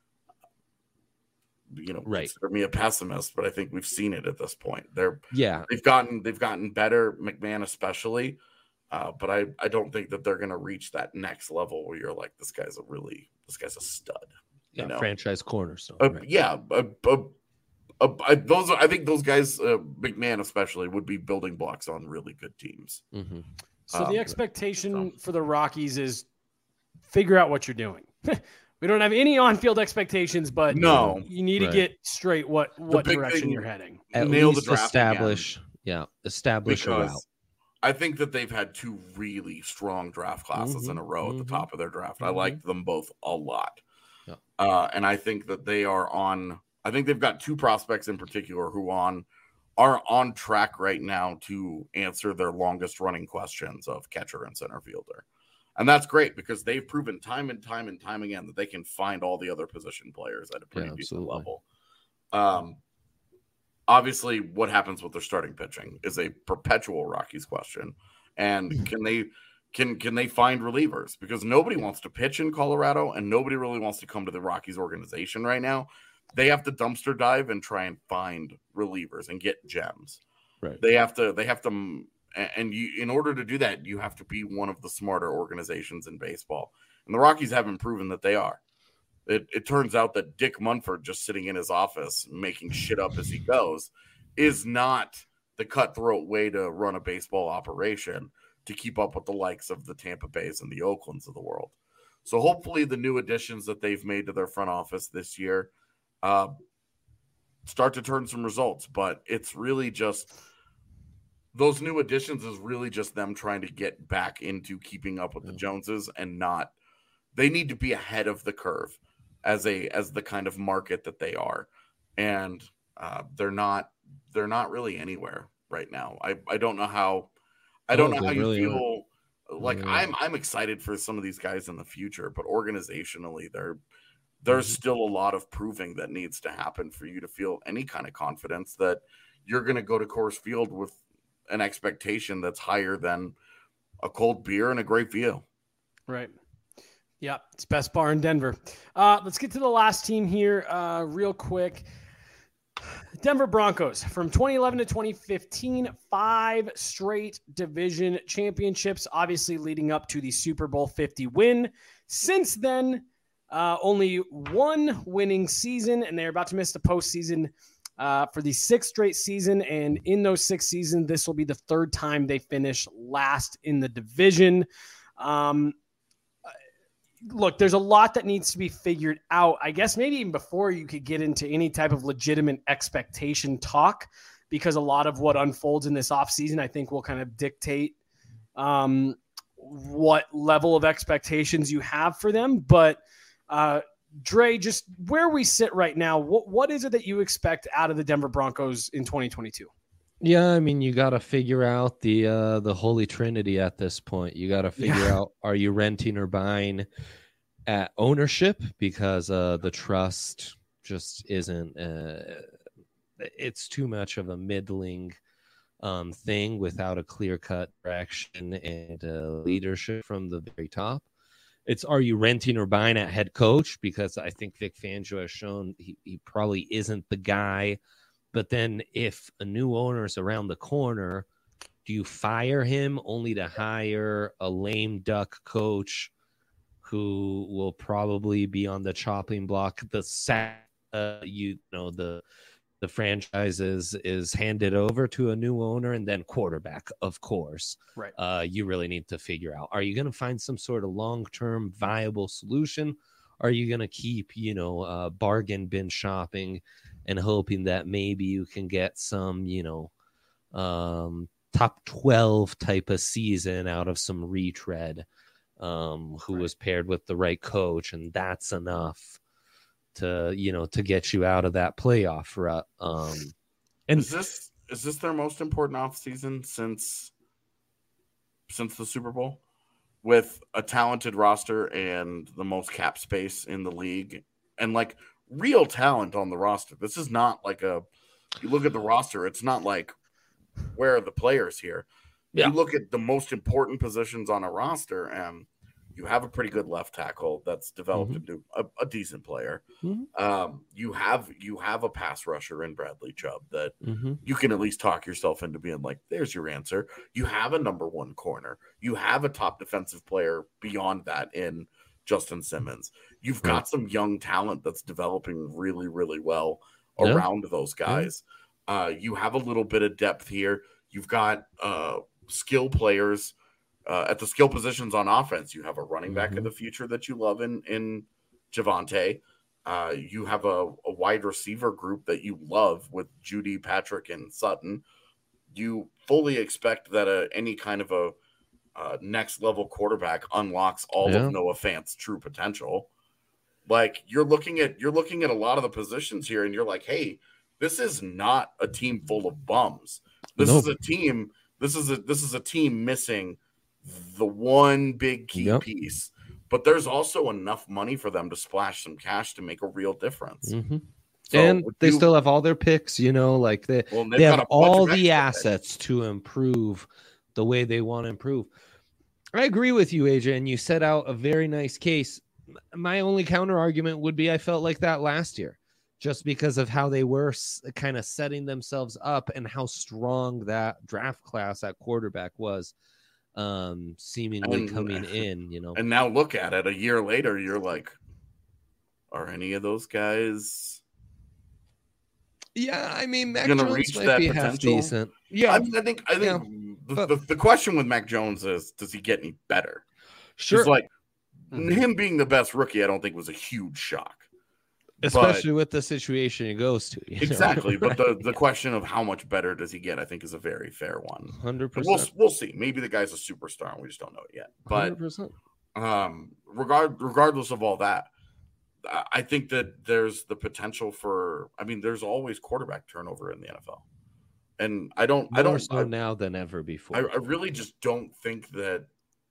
Speaker 7: you know,
Speaker 6: right.
Speaker 7: Consider me a pessimist, but I think we've seen it at this point. They're
Speaker 6: yeah,
Speaker 7: they've gotten they've gotten better, McMahon especially. Uh, but I, I don't think that they're going to reach that next level where you're like, this guy's a really, this guy's a stud.
Speaker 6: yeah,
Speaker 7: You know?
Speaker 6: franchise cornerstone.
Speaker 7: Uh,
Speaker 6: right.
Speaker 7: Yeah, uh, uh, uh, I, those are, I think those guys, uh, McMahon especially, would be building blocks on really good teams.
Speaker 6: Mm-hmm.
Speaker 1: So
Speaker 7: Um,
Speaker 1: the expectation
Speaker 7: so.
Speaker 1: for the Rockies is figure out what you're doing. We don't have any on-field expectations, but
Speaker 7: No.
Speaker 1: you need
Speaker 6: Right.
Speaker 1: to get straight what what
Speaker 7: big
Speaker 1: direction
Speaker 7: thing-
Speaker 1: you're heading.
Speaker 6: At
Speaker 7: Nail the
Speaker 6: least
Speaker 7: draft
Speaker 6: establish, yeah, establish a route.
Speaker 7: Because I think that they've had two really strong draft classes
Speaker 6: Mhm,
Speaker 7: in a row at
Speaker 6: mhm,
Speaker 7: the top of their draft. I
Speaker 6: mhm.
Speaker 7: liked them both a lot.
Speaker 6: Yeah.
Speaker 7: Uh, and I think that they are on, I think they've got two prospects in particular who on are on track right now to answer their longest running questions of catcher and center fielder. And that's great because they've proven time and time and time again that they can find all the other position players at a pretty
Speaker 6: Yeah,
Speaker 7: decent
Speaker 6: absolutely.
Speaker 7: level. Um, obviously, what happens with their starting pitching is a perpetual Rockies question. And can they can can they find relievers? Because nobody wants to pitch in Colorado, and nobody really wants to come to the Rockies organization right now. They have to dumpster dive and try and find relievers and get gems.
Speaker 6: Right.
Speaker 7: They have to. They have to. And you, in order to do that, you have to be one of the smarter organizations in baseball. And the Rockies haven't proven that they are. It, it turns out that Dick Munford, just sitting in his office making shit up as he goes, is not the cutthroat way to run a baseball operation to keep up with the likes of the Tampa Bays and the Oaklands of the world. So hopefully the new additions that they've made to their front office this year uh, start to turn some results. But it's really just those new additions is really just them trying to get back into keeping up with the Joneses and not – they need to be ahead of the curve as a as the kind of market that they are. And uh, they're not they're not really anywhere right now. I, I don't know how I don't
Speaker 6: No,
Speaker 7: know how
Speaker 6: they
Speaker 7: you
Speaker 6: really
Speaker 7: feel like
Speaker 6: Really
Speaker 7: I'm I'm excited for some of these guys in the future, but organizationally they're there's
Speaker 6: Mhm.
Speaker 7: still a lot of proving that needs to happen for you to feel any kind of confidence that you're going to go to Coors Field with an expectation that's higher than a cold beer and a great view.
Speaker 1: Right. Yeah, it's best bar in Denver. Uh, let's get to the last team here uh, real quick. Denver Broncos from twenty eleven to twenty fifteen, five straight division championships, obviously leading up to the Super Bowl fifty win. Since then, uh, only one winning season, and they're about to miss the postseason uh, for the sixth straight season. And in those six seasons, this will be the third time they finish last in the division. Um, Look, there's a lot that needs to be figured out. I guess maybe even before you could get into any type of legitimate expectation talk, because a lot of what unfolds in this offseason, I think, will kind of dictate um, what level of expectations you have for them. But uh, Dre, just where we sit right now, what what is it that you expect out of the Denver Broncos in twenty twenty-two?
Speaker 6: Yeah, I mean, you got to figure out the uh, the holy trinity at this point. You got to figure
Speaker 1: Yeah.
Speaker 6: out, are you renting or buying at ownership, because uh, the trust just isn't. Uh, it's too much of a middling um, thing without a clear cut direction and uh, leadership from the very top. It's, are you renting or buying at head coach? Because I think Vic Fangio has shown he, he probably isn't the guy. But then if a new owner is around the corner, do you fire him only to hire a lame duck coach who will probably be on the chopping block? The sa- uh, you know, the the franchise is, is handed over to a new owner, and then quarterback, of course.
Speaker 1: Right.
Speaker 6: Uh, you really need to figure out, are you going to find some sort of long-term viable solution? Are you going to keep, you know, uh, bargain bin shopping and hoping that maybe you can get some, you know, um, top twelve type of season out of some retread, um, who
Speaker 1: right.
Speaker 6: was paired with the right coach, and that's enough to, you know, to get you out of that playoff rut. Um, and
Speaker 7: is this is this their most important offseason since since the Super Bowl? With a talented roster and the most cap space in the league, and like real talent on the roster. This is not like a, you look at the roster, it's not like, where are the players here? Yeah. You look at the most important positions on a roster, and you have a pretty good left tackle that's developed
Speaker 6: mm-hmm.
Speaker 7: into a, a decent player.
Speaker 6: Mm-hmm.
Speaker 7: Um, you have you have a pass rusher in Bradley Chubb that
Speaker 6: mm-hmm.
Speaker 7: you can at least talk yourself into being like, there's your answer. You have a number one corner. You have a top defensive player beyond that in Justin Simmons. You've got right. some young talent that's developing really, really well
Speaker 6: yeah.
Speaker 7: around those guys. Yeah. Uh, you have a little bit of depth here. You've got uh, skill players uh, at the skill positions on offense. You have a running back
Speaker 6: mm-hmm.
Speaker 7: of the future that you love in, in Javonte. Uh, you have a, a wide receiver group that you love with Judy, Patrick, and Sutton. You fully expect that a, any kind of a uh, next level quarterback unlocks all
Speaker 6: yeah.
Speaker 7: of Noah Fant's true potential. Like you're looking at you're looking at a lot of the positions here, and you're like, hey, this is not a team full of bums. This
Speaker 6: nope.
Speaker 7: is a team. This is a this is a team missing the one big key
Speaker 6: yep.
Speaker 7: piece. But there's also enough money for them to splash some cash to make a real difference.
Speaker 6: Mm-hmm.
Speaker 7: So
Speaker 6: and they
Speaker 7: you,
Speaker 6: still have all their picks, you know, like they,
Speaker 7: well,
Speaker 6: they have all the
Speaker 7: picks.
Speaker 6: assets to improve the way they want to improve. I agree with you, A J, and you set out a very nice case. My only counter argument would be I felt like that last year, just because of how they were kind of setting themselves up and how strong that draft class at quarterback was. Um, seemingly
Speaker 7: and,
Speaker 6: coming in, you know,
Speaker 7: and now look at it a year later, you're like, are any of those guys?
Speaker 6: Yeah, I mean, Mac
Speaker 7: gonna
Speaker 6: Jones
Speaker 7: reach
Speaker 6: might
Speaker 7: that
Speaker 6: be half
Speaker 7: potential?
Speaker 6: decent. Yeah,
Speaker 7: I mean, I think I think
Speaker 6: yeah,
Speaker 7: the,
Speaker 6: but,
Speaker 7: the, the question with Mac Jones is, does he get any better?
Speaker 6: Sure,
Speaker 7: it's like
Speaker 6: mm-hmm.
Speaker 7: him being the best rookie, I don't think was a huge shock.
Speaker 6: Especially
Speaker 7: but,
Speaker 6: with the situation he goes to.
Speaker 7: Exactly.
Speaker 6: Know?
Speaker 7: But the, the question of how much better does he get, I think, is a very fair one.
Speaker 6: one hundred percent.
Speaker 7: We'll, we'll see. Maybe the guy's a superstar and we just don't know it yet. But
Speaker 6: one hundred percent.
Speaker 7: Um, regard, regardless of all that, I think that there's the potential for, I mean, there's always quarterback turnover in the N F L. And I don't,
Speaker 6: More
Speaker 7: I don't,
Speaker 6: so
Speaker 7: I,
Speaker 6: now than ever before.
Speaker 7: I, I really just don't think that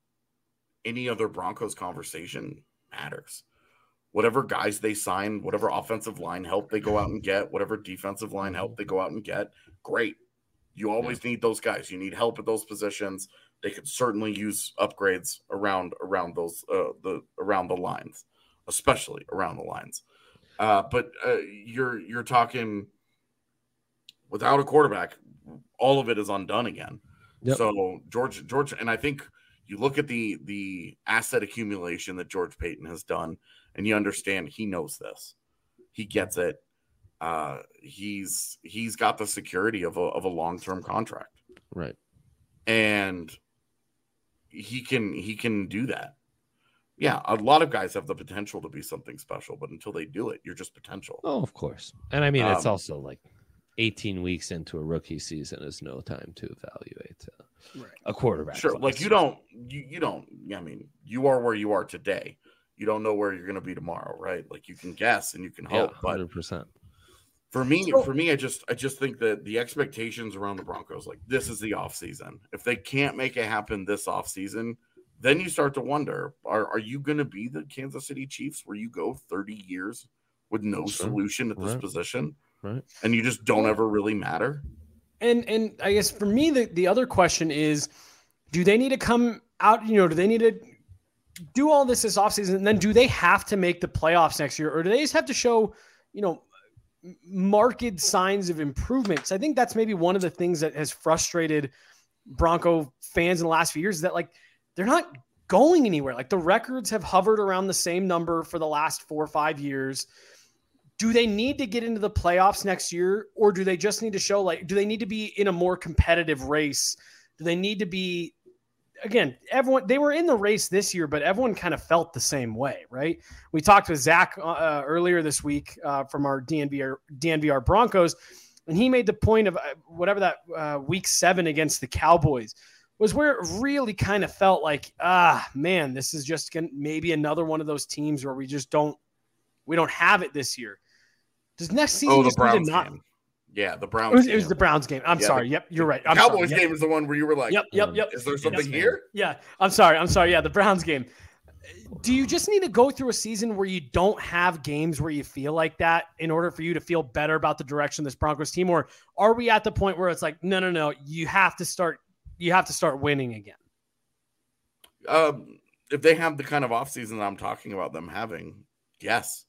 Speaker 7: any other Broncos conversation matters. Whatever guys they sign, whatever offensive line help they go out and get, whatever defensive line help they go out and get, great. You always yeah. need those guys. You need help at those positions. They could certainly use upgrades around around those uh, the around the lines, especially around the lines. Uh, but uh, you're you're talking without a quarterback, all of it is undone again. Yep. So George George, and I think you look at the the asset accumulation that George Paton has done. And you understand he knows this. He gets it. Uh, he's he's got the security of a of a long-term contract.
Speaker 6: Right.
Speaker 7: And he can he can do that. Yeah, a lot of guys have the potential to be something special, but until they do it, you're just potential.
Speaker 6: Oh, of course. And I mean,
Speaker 7: um,
Speaker 6: it's also like eighteen weeks into a rookie season is no time to evaluate uh,
Speaker 1: right.
Speaker 6: a quarterback.
Speaker 7: Sure.
Speaker 6: class.
Speaker 7: Like you don't you, you don't I mean, you are where you are today. You don't know where you're going to be tomorrow, right? Like you can guess and you can hope,
Speaker 6: yeah, one hundred percent.
Speaker 7: But for me,
Speaker 1: so,
Speaker 7: for me, I just, I just think that the expectations around the Broncos, like this is the off season. If they can't make it happen this off season, then you start to wonder: Are are you going to be the Kansas City Chiefs, where you go thirty years with no sure. solution at this
Speaker 6: right.
Speaker 7: position,
Speaker 6: right?
Speaker 7: And you just don't ever really matter?
Speaker 1: And and I guess for me, the the other question is, do they need to come out? You know, do they need to do all this this offseason, and then do they have to make the playoffs next year, or do they just have to show, you know, marked signs of improvement? Because I think that's maybe one of the things that has frustrated Bronco fans in the last few years is that like they're not going anywhere. Like the records have hovered around the same number for the last four or five years, do they need to get into the playoffs next year, or do they just need to show, like, do they need to be in a more competitive race? Do they need to be, again, everyone, they were in the race this year, but everyone kind of felt the same way, right? We talked with Zach uh, earlier this week uh, from our D N V R, D N V R Broncos, and he made the point of uh, whatever that uh, week seven against the Cowboys was where it really kind of felt like, ah, man, this is just gonna, maybe another one of those teams where we just don't, we don't have it this year. Does next season
Speaker 7: Oh, the
Speaker 1: just need
Speaker 7: Browns
Speaker 1: to not?
Speaker 7: game. Yeah, the Browns.
Speaker 1: It was,
Speaker 7: game.
Speaker 1: it was the Browns game. I'm
Speaker 7: Yeah,
Speaker 1: sorry.
Speaker 7: the-
Speaker 1: Yep, you're right. I'm
Speaker 7: Cowboys
Speaker 1: sorry.
Speaker 7: game is the one where you were like,
Speaker 1: Yep, yep, yep.
Speaker 7: is there something
Speaker 1: Yep.
Speaker 7: here?
Speaker 1: Yeah, I'm sorry. I'm sorry. Yeah, the Browns game. Do you just need to go through a season where you don't have games where you feel like that in order for you to feel better about the direction of this Broncos team? Or are we at the point where it's like, no, no, no, you have to start, you have to start winning again?
Speaker 7: Um, if they have the kind of offseason that I'm talking about them having, yes.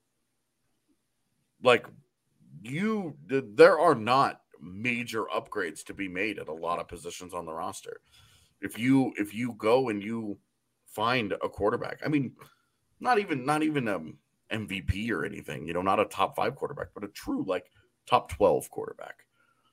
Speaker 7: Like, you, there are not major upgrades to be made at a lot of positions on the roster. If you if you go and you find a quarterback, I mean, not even not even um M V P or anything, you know, not a top five quarterback, but a true like top twelve quarterback.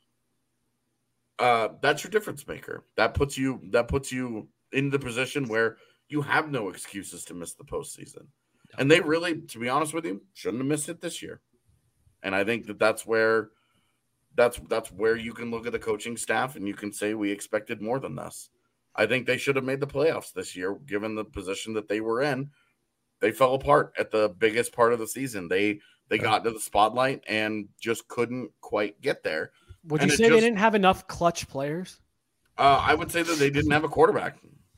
Speaker 7: Uh, that's your difference maker. That puts you that puts you in the position where you have no excuses to miss the postseason. And they really, to be honest with you, shouldn't have missed it this year. And I think that that's where that's that's where you can look at the coaching staff and you can say we expected more than this. I think they should have made the playoffs this year, given the position that they were in. They fell apart at the biggest part of the season. They they got into the spotlight and just couldn't quite get there.
Speaker 1: Would
Speaker 7: And
Speaker 1: you
Speaker 7: it
Speaker 1: say they
Speaker 7: just-
Speaker 1: didn't have enough clutch players?
Speaker 7: Uh, I would say that they didn't have a quarterback.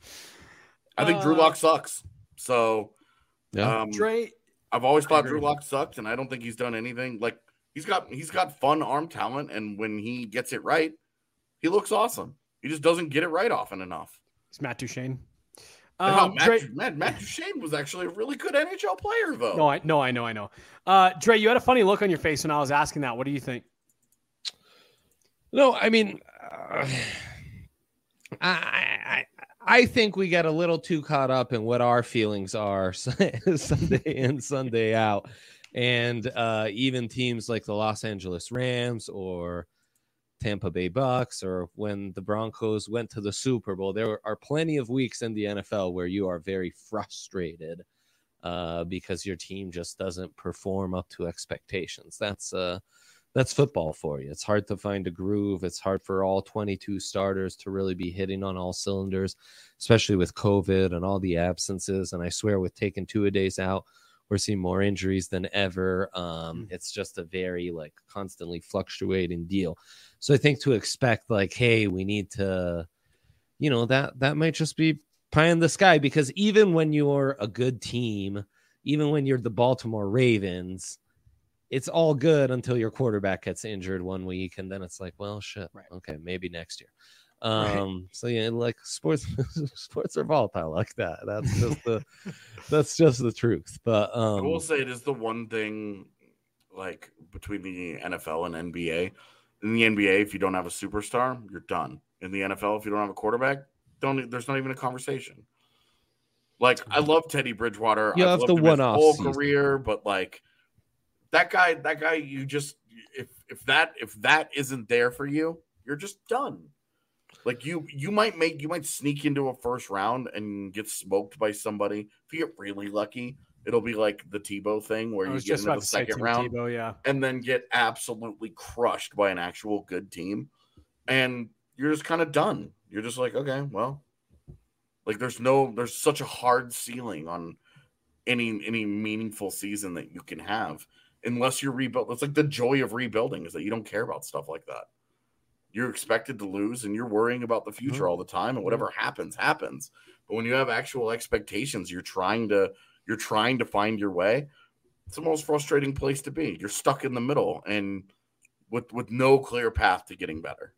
Speaker 7: I think Drew
Speaker 1: Uh,
Speaker 7: Lock sucks. So
Speaker 6: Yeah.
Speaker 7: um,
Speaker 1: Dre,
Speaker 7: I've always
Speaker 1: I
Speaker 7: thought
Speaker 1: agree
Speaker 7: Drew
Speaker 1: with
Speaker 7: Lock sucked, and I don't think he's done anything. Like he's got he's got fun arm talent, and when he gets it right, he looks awesome. He just doesn't get it right often enough.
Speaker 1: it's Matt Duchene.
Speaker 7: And how
Speaker 1: Um,
Speaker 7: Matt,
Speaker 1: Dre,
Speaker 7: Matt, Matt Duchene was actually a really good N H L player, though.
Speaker 1: no, I no, I know, I know. Uh, Dre, you had a funny look on your face when I was asking that. What do you think?
Speaker 6: No, I mean, uh, I, I I think we get a little too caught up in what our feelings are Sunday in, Sunday out, and uh, even teams like the Los Angeles Rams or Tampa Bay Bucks, or when the Broncos went to the Super Bowl, there are plenty of weeks in the N F L where you are very frustrated uh, because your team just doesn't perform up to expectations. That's uh, that's football for you. It's hard to find a groove. It's hard for all twenty-two starters to really be hitting on all cylinders, especially with COVID and all the absences. And I swear with taking two a days out, we're seeing more injuries than ever. Um, it's just a very like constantly fluctuating deal. So I think to expect like, hey, we need to, you know, that that might just be pie in the sky, because even when you're a good team, even when you're the Baltimore Ravens, it's all good until your quarterback gets injured one week, and then it's like, well, shit,
Speaker 1: Right.
Speaker 6: okay, maybe next year. Um, so yeah, like sports, sports are volatile like that. That's just the, that's just the truth. But
Speaker 7: I will
Speaker 6: um,
Speaker 7: say it is the one thing, like between the N F L and N B A. In the N B A, if you don't have a superstar, you're done. In the N F L, if you don't have a quarterback, don't there's not even a conversation. Like I love Teddy Bridgewater.
Speaker 6: You
Speaker 7: I've
Speaker 6: have
Speaker 7: loved
Speaker 6: the
Speaker 7: him his
Speaker 6: one-off
Speaker 7: whole
Speaker 6: season.
Speaker 7: career, but like that guy, that guy, you just if if that if that isn't there for you, you're just done. Like you, you might make you might sneak into a first round and get smoked by somebody. If you get really lucky, it'll be like the Tebow thing where
Speaker 1: I
Speaker 7: you
Speaker 1: was
Speaker 7: get
Speaker 1: just
Speaker 7: into
Speaker 1: about
Speaker 7: the
Speaker 1: to say
Speaker 7: second
Speaker 1: Tim
Speaker 7: round
Speaker 1: Tebow, yeah.
Speaker 7: and then get absolutely crushed by an actual good team, and you're just kind of done. You're just like, okay, well, like there's no, there's such a hard ceiling on any any meaningful season that you can have unless you're rebuilt. It's like the joy of rebuilding is that you don't care about stuff like that. You're expected to lose and you're worrying about the future all the time, and whatever happens, happens. But when you have actual expectations, you're trying to you're trying to find your way. It's the most frustrating place to be. You're stuck in the middle and with with no clear path to getting better.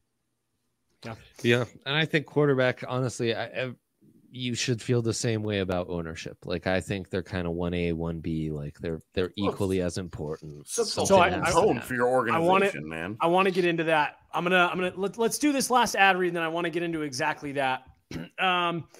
Speaker 6: yeah, and I think quarterback, honestly, I, I you should feel the same way about ownership. Like I think they're kind of one A, one B. Like they're they're equally as important.
Speaker 7: So,
Speaker 6: Something
Speaker 1: I-
Speaker 6: has
Speaker 1: I-
Speaker 6: to
Speaker 7: tone
Speaker 6: happen.
Speaker 7: for your organization,
Speaker 1: want it-
Speaker 7: man.
Speaker 1: I want to get into that. I'm gonna I'm gonna let, let's do this last ad read, and then I want to get into exactly that. um,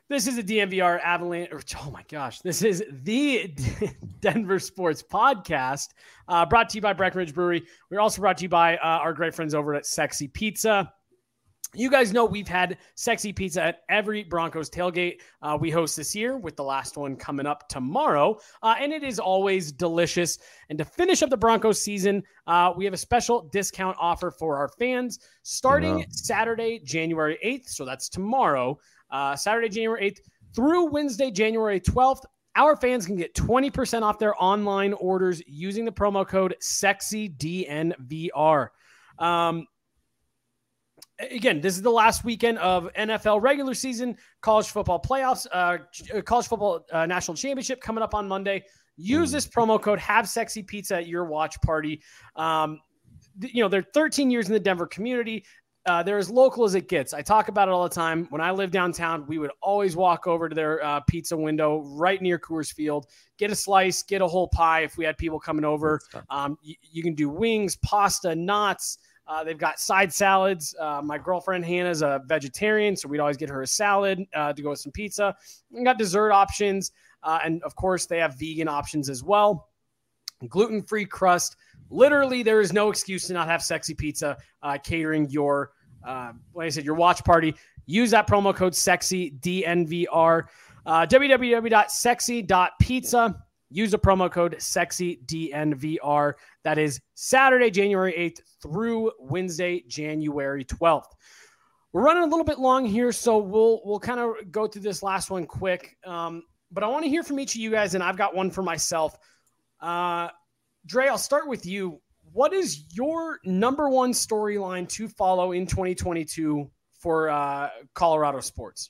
Speaker 1: This is a D N V R Avalanche. Or, oh my gosh, this is the Denver Sports Podcast, uh, brought to you by Breckenridge Brewery. We're also brought to you by uh, our great friends over at Sexy Pizza. You guys know we've had Sexy Pizza at every Broncos tailgate uh, we host this year, with the last one coming up tomorrow. Uh, and it is always delicious. And to finish up the Broncos season, uh, we have a special discount offer for our fans starting yeah. Saturday, January eighth. So that's tomorrow, uh, Saturday, January eighth through Wednesday, January twelfth. Our fans can get twenty percent off their online orders using the promo code SEXYDNVR. Um, Again, this is the last weekend of N F L regular season, college football playoffs, uh, college football uh, national championship coming up on Monday. Use this promo code, have Sexy Pizza at your watch party. Um, th- you know, they're thirteen years in the Denver community. Uh, they're as local as it gets. I talk about it all the time. When I lived downtown, we would always walk over to their uh, pizza window right near Coors Field, get a slice, get a whole pie if we had people coming over. Um, y- you can do wings, pasta, knots. Uh, they've got side salads. Uh, my girlfriend Hannah's a vegetarian, so we'd always get her a salad uh, to go with some pizza. We got dessert options, uh, and of course, they have vegan options as well. Gluten-free crust. Literally, there is no excuse to not have Sexy Pizza uh, catering your, uh, like I said, your watch party. Use that promo code SEXYDNVR. Uh, w w w dot sexy dot pizza. Use the promo code SEXYDNVR. That is Saturday, January eighth through Wednesday, January twelfth. We're running a little bit long here, so we'll we'll kind of go through this last one quick. Um, but I want to hear from each of you guys, and I've got one for myself. Uh, Dre, I'll start with you. What is your number one storyline to follow in twenty twenty-two for uh, Colorado sports?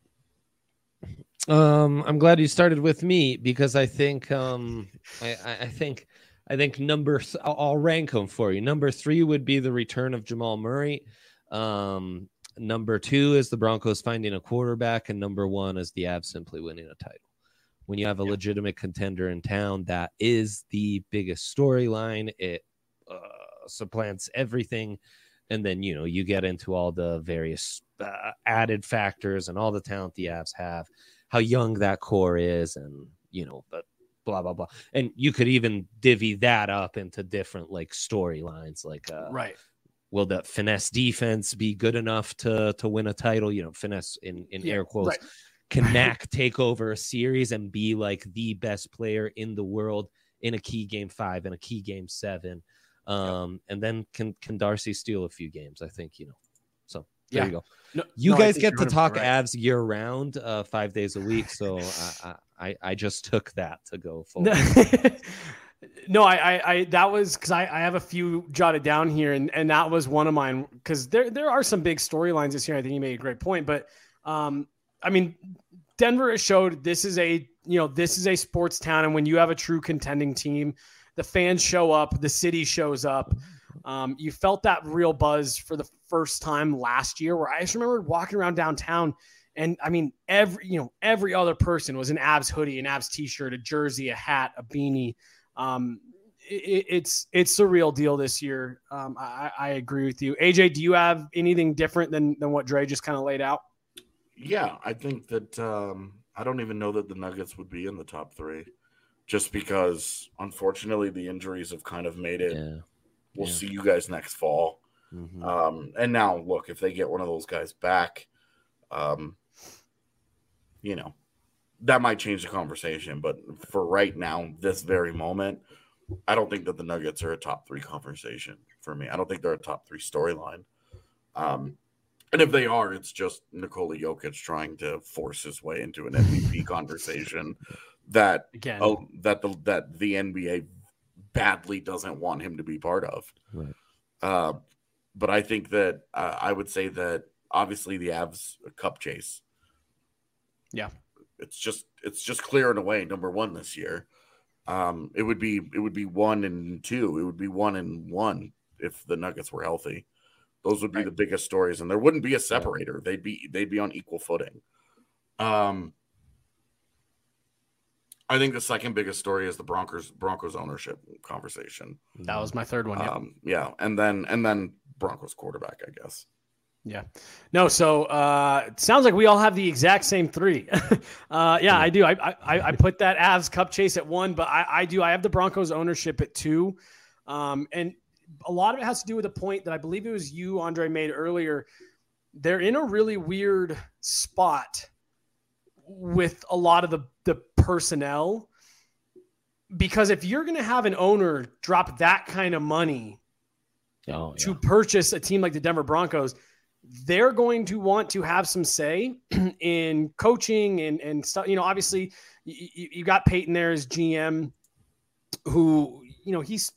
Speaker 6: Um, I'm glad you started with me because I think, um, I, I think, I think number, th- I'll, I'll rank them for you. Number three would be the return of Jamal Murray. Um, number two is the Broncos finding a quarterback, and number one is the Avs simply winning a title. When you have a yeah. legitimate contender in town, that is the biggest storyline. It uh, supplants everything. And then, you know, you get into all the various uh, added factors and all the talent the Avs have, how young that core is, and, you know, but blah, blah, blah. And you could even divvy that up into different, like, storylines. Like, uh,
Speaker 1: right.
Speaker 6: will the finesse defense be good enough to to win a title? You know, finesse in, in yeah, air quotes. Right. Can Knack take over a series and be, like, the best player in the world in a key game five and a key game seven? Um, yep. And then can, can Darcy steal a few games? I think, you know, so there yeah. you go. No, you no, guys get to talk right. Avs year round, uh, five days a week. So I, I, I just took that to go forward.
Speaker 1: No, I, I, I, that was because I, I have a few jotted down here, and, and that was one of mine, because there, there are some big storylines this year. I think you made a great point, but um, I mean, Denver has showed this is a, you know, this is a sports town. And when you have a true contending team, the fans show up, the city shows up. Um, you felt that real buzz for the first time last year, where I just remember walking around downtown, and I mean, every, you know, every other person was an Avs hoodie, an Avs t-shirt, a jersey, a hat, a beanie. Um, it, it's, it's the real deal this year. Um, I, I agree with you. A J, do you have anything different than, than what Dre just kind of laid out?
Speaker 7: Yeah, I think that um, I don't even know that the Nuggets would be in the top three, just because, unfortunately, the injuries have kind of made it. Yeah. We'll yeah. see you guys next fall. Mm-hmm. Um, and now, look, if they get one of those guys back, um, you know, that might change the conversation. But for right now, this very moment, I don't think that the Nuggets are a top three conversation for me. I don't think they're a top three storyline. Um, and if they are, it's just Nikola Jokic trying to force his way into an M V P conversation that Again. oh that the that the N B A badly doesn't want him to be part of.
Speaker 6: Right.
Speaker 7: Uh, but I think that uh, I would say that obviously the Avs a cup chase.
Speaker 1: Yeah,
Speaker 7: it's just it's just clearing away number one this year. Um, it would be it would be one and two. It would be one and one if the Nuggets were healthy. Those would be right. the biggest stories, and there wouldn't be a separator. Yeah. They'd be they'd be on equal footing. Um. I think the second biggest story is the Broncos Broncos ownership conversation.
Speaker 1: That was my third one. Yeah,
Speaker 7: um, yeah, and then and then Broncos quarterback, I guess.
Speaker 1: Yeah. No, so uh, it sounds like we all have the exact same three. uh, yeah, I do. I, I I put that Avs Cup chase at one, but I, I do. I have the Broncos ownership at two. Um, and a lot of it has to do with a point that I believe it was you, Andre, made earlier. They're in a really weird spot with a lot of the, the personnel, because if you're going to have an owner drop that kind of money oh, yeah. to purchase a team like the Denver Broncos, they're going to want to have some say in coaching and, and stuff. You know, obviously you, you got Peyton there as G M, who, you know, he's,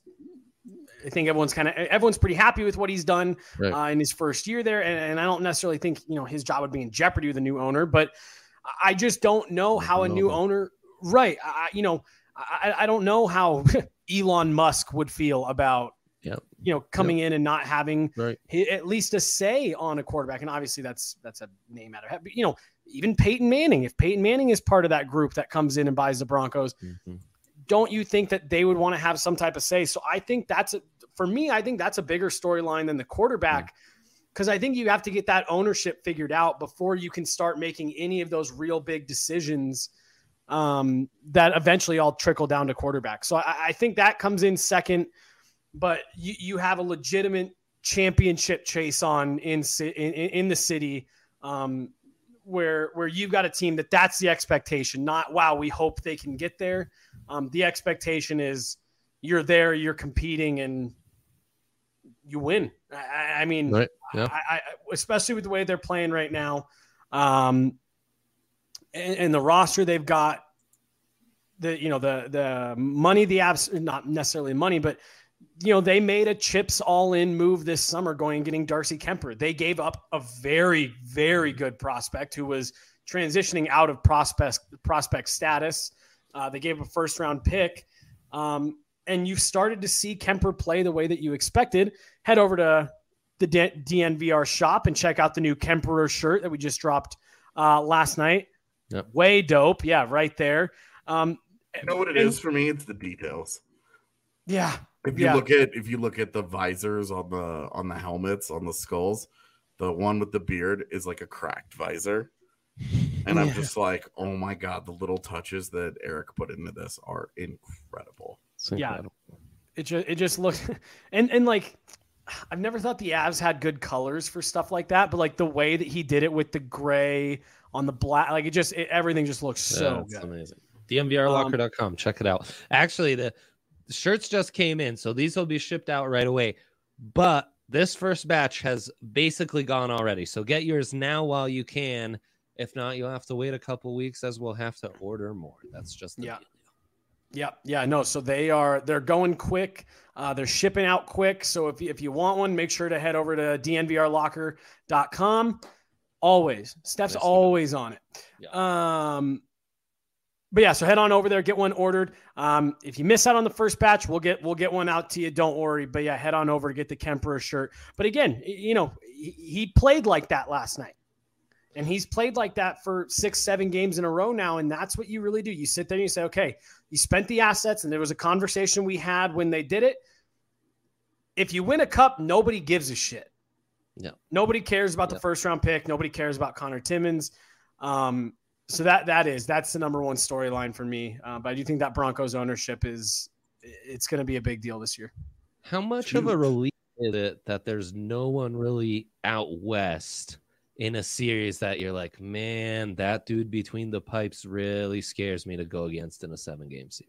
Speaker 1: I think everyone's kind of, everyone's pretty happy with what he's done right. uh, in his first year there. And, and I don't necessarily think, you know, his job would be in jeopardy with a new owner, but I just don't know how a new owner, right. I, you know, I, I don't know how Elon Musk would feel about, Yep. you know, coming yep. in and not having right. his, at least a say on a quarterback. And obviously that's, that's a name out of heaven. But, you know, even Peyton Manning, if Peyton Manning is part of that group that comes in and buys the Broncos, mm-hmm. don't you think that they would want to have some type of say? So I think that's, a, for me, I think that's a bigger storyline than the quarterback, because mm-hmm. I think you have to get that ownership figured out before you can start making any of those real big decisions um, that eventually all trickle down to quarterback. So I, I think that comes in second. But you, you have a legitimate championship chase on in in, in the city, um, where where you've got a team that that's the expectation. Not wow, we hope they can get there. Um, the expectation is you're there, you're competing, and you win. I, I mean, right. yeah. I, I, especially with the way they're playing right now, um, and, and the roster they've got, the you know the the money, the abs not necessarily money, but you know, they made a chips all in move this summer going and getting Darcy Kemper. They gave up a very, very good prospect who was transitioning out of prospect prospect status. Uh, they gave a first round pick. Um, and you've started to see Kemper play the way that you expected. Head over to the D N V R shop and check out the new Kemperer shirt that we just dropped uh, last night. Yep. Way dope. Yeah, right there. Um,
Speaker 7: you know what it and, is for me? It's the details.
Speaker 1: Yeah.
Speaker 7: If you
Speaker 1: yeah.
Speaker 7: look at if you look at the visors on the on the helmets on the skulls, the one with the beard is like a cracked visor, and yeah. I'm just like, oh my god, the little touches that Eric put into this are incredible.
Speaker 1: incredible. Yeah, it just it just looks and and like I've never thought the Avs had good colors for stuff like that, but like the way that he did it with the gray on the black, like it just it, everything just looks so
Speaker 6: yeah,
Speaker 1: good.
Speaker 6: Amazing. D N V R locker dot com, um, check it out. Actually, the The shirts just came in, so these will be shipped out right away. But this first batch has basically gone already. So get yours now while you can. If not, you'll have to wait a couple weeks as we'll have to order more. That's just the
Speaker 1: yeah.
Speaker 6: deal.
Speaker 1: Yeah, yeah, no. So they are they're going quick. Uh, they're shipping out quick. So if you, if you want one, make sure to head over to D N V R locker dot com. Always, Steph's That's always on it. Yeah. Um. But yeah, so head on over there, get one ordered. Um, if you miss out on the first batch, we'll get we'll get one out to you. Don't worry. But yeah, head on over to get the Kemperer shirt. But again, you know, he, he played like that last night, and he's played like that for six, seven games in a row now. And that's what you really do. You sit there and you say, okay, you spent the assets, and there was a conversation we had when they did it. If you win a cup, nobody gives a shit.
Speaker 6: No,
Speaker 1: nobody cares about yeah. the first round pick. Nobody cares about Connor Timmins. Um, So that that is that's the number one storyline for me. Uh, but I do think that Broncos ownership is it's going to be a big deal this year.
Speaker 6: How much of a relief is it that there's no one really out west in a series that you're like, man, that dude between the pipes really scares me to go against in a seven game series?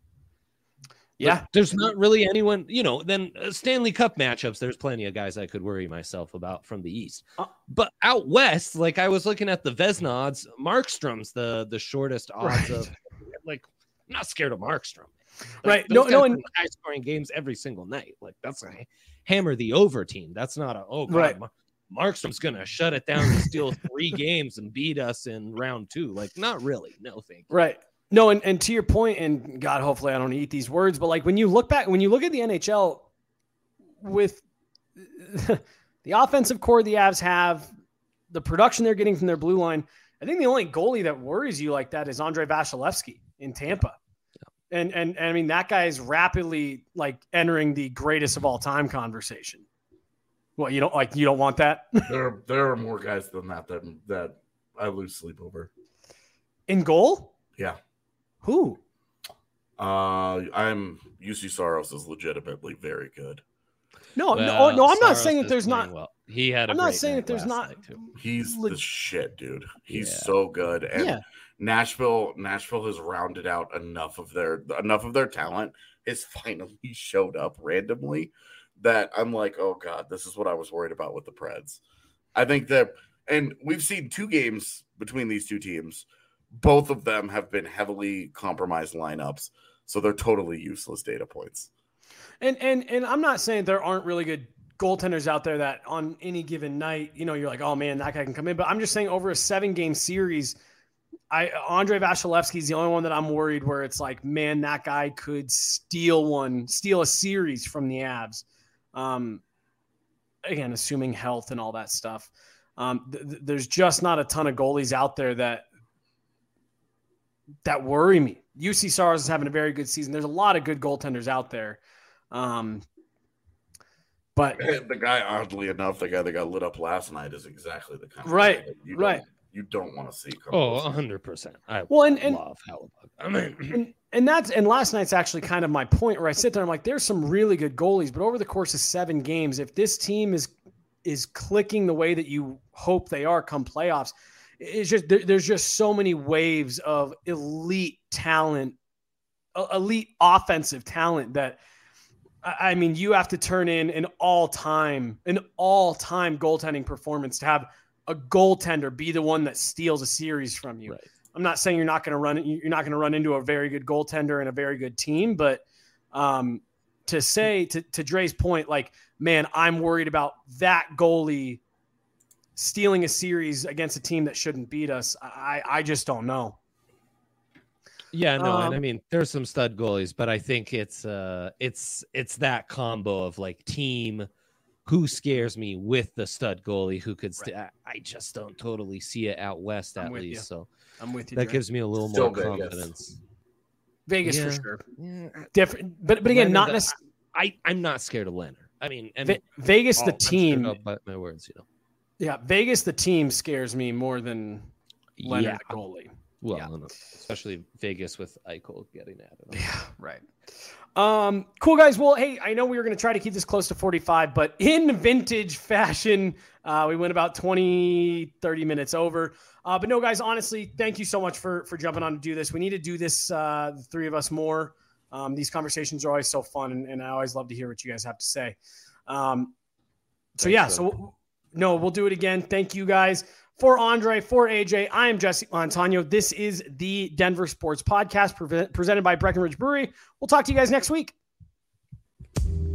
Speaker 1: Yeah,
Speaker 6: but there's not really anyone, you know, then uh, Stanley Cup matchups, there's plenty of guys I could worry myself about from the East. Uh, but out West, like I was looking at the Vezina odds, Markstrom's the, the shortest odds right. of, like, I'm not scared of Markstrom. Like,
Speaker 1: right. No, no. And
Speaker 6: high scoring games every single night. Like that's a hammer the over team. That's not a, oh, God, right. Mar- Markstrom's going to shut it down and steal three games and beat us in round two. Like, not really. No, thank you.
Speaker 1: Right. No, and, and to your point, and God, hopefully I don't eat these words, but like when you look back, when you look at the N H L with the offensive core the Avs have, the production they're getting from their blue line, I think the only goalie that worries you like that is Andre Vasilevsky in Tampa. Yeah. And, and, and I mean, that guy is rapidly like entering the greatest of all time conversation. Well, you don't like you don't want that
Speaker 7: There, there are more guys than that that that I lose sleep over.
Speaker 1: in goal.
Speaker 7: Yeah.
Speaker 1: Who?
Speaker 7: Uh, I'm U C Saros is legitimately very good.
Speaker 1: No,
Speaker 6: Well,
Speaker 1: no, no. I'm not
Speaker 6: Saros
Speaker 1: saying that
Speaker 6: is
Speaker 1: there's
Speaker 6: playing
Speaker 1: not.
Speaker 6: well. He had. A
Speaker 1: I'm not
Speaker 6: great
Speaker 1: saying
Speaker 6: night
Speaker 1: that there's
Speaker 6: last
Speaker 1: not-
Speaker 6: night, too.
Speaker 7: He's
Speaker 1: Leg-
Speaker 7: the shit, dude. He's
Speaker 6: Yeah.
Speaker 7: so good. And
Speaker 1: Yeah.
Speaker 7: Nashville, Nashville has rounded out enough of their enough of their talent has finally showed up randomly that I'm like, oh god, this is what I was worried about with the Preds. I think that, and we've seen two games between these two teams. Both of them have been heavily compromised lineups, so they're totally useless data points.
Speaker 1: And and and I'm not saying there aren't really good goaltenders out there that on any given night, you know, you're like, oh man, that guy can come in. But I'm just saying over a seven game series, I Andre Vasilevsky is the only one that I'm worried where it's like, man, that guy could steal one, steal a series from the Avs. Um, again, assuming health and all that stuff. Um, th- th- there's just not a ton of goalies out there that that worry me. U C Saros is having a very good season. There's a lot of good goaltenders out there. Um, but
Speaker 7: The guy, oddly enough, the guy that got lit up last night is exactly the kind of
Speaker 1: Right,
Speaker 7: guy that you
Speaker 1: right.
Speaker 7: don't, you don't want to see. Come
Speaker 6: Oh,
Speaker 7: close.
Speaker 6: one hundred percent. I
Speaker 1: Well, and- and-
Speaker 6: love Hellebuyck. I mean,
Speaker 1: and, and that's and last night's actually kind of my point where I sit there. I'm like, there's some really good goalies, but over the course of seven games, if this team is is clicking the way that you hope they are come playoffs, it's just there, there's just so many waves of elite talent, uh, elite offensive talent that. I mean, you have to turn in an all-time, an all-time goaltending performance to have a goaltender be the one that steals a series from you.
Speaker 6: Right.
Speaker 1: I'm not saying you're not going to run, you're not going to run into a very good goaltender and a very good team, but um, to say to, to Dre's point, like, man, I'm worried about that goalie stealing a series against a team that shouldn't beat us. I, I just don't know.
Speaker 6: Yeah, no, and I
Speaker 1: Um,
Speaker 6: mean there's some stud goalies, but I think it's uh it's it's that combo of like team who scares me with the stud goalie who could st- I, I just don't totally see it out west
Speaker 1: I'm
Speaker 6: at
Speaker 1: with
Speaker 6: least.
Speaker 1: you.
Speaker 6: So
Speaker 1: I'm with you.
Speaker 6: that
Speaker 1: Dre.
Speaker 6: gives me a little
Speaker 7: Still
Speaker 6: more
Speaker 7: Vegas.
Speaker 6: confidence.
Speaker 1: Vegas
Speaker 6: Yeah.
Speaker 1: for sure.
Speaker 6: Yeah,
Speaker 1: Different, but but again,
Speaker 6: Leonard,
Speaker 1: not
Speaker 6: uh,
Speaker 1: necessarily.
Speaker 6: I I'm not scared of Leonard. I mean, and
Speaker 1: Ve- Vegas,
Speaker 6: oh,
Speaker 1: the
Speaker 6: I'm sure
Speaker 1: team.
Speaker 6: I'll bite my words, you know.
Speaker 1: Yeah, Vegas, the team scares me more than Leonard,
Speaker 6: Yeah,
Speaker 1: the goalie.
Speaker 6: well,
Speaker 1: yeah.
Speaker 6: no, no, especially Vegas with Eichel getting at it.
Speaker 1: Yeah, right. Um, cool guys. Well, hey, I know we were going to try to keep this close to forty-five, but in vintage fashion, uh, we went about twenty, thirty minutes over. Uh, but no, guys, honestly, thank you so much for for jumping on to do this. We need to do this, uh, the three of us more. Um, these conversations are always so fun, and, and I always love to hear what you guys have to say. Um, so
Speaker 6: Thanks,
Speaker 1: yeah,
Speaker 6: man.
Speaker 1: so no, we'll do it again. Thank you guys. For Andre, for A J, I am Jesse Montano. This is the Denver Sports Podcast pre- presented by Breckenridge Brewery. We'll talk to you guys next week.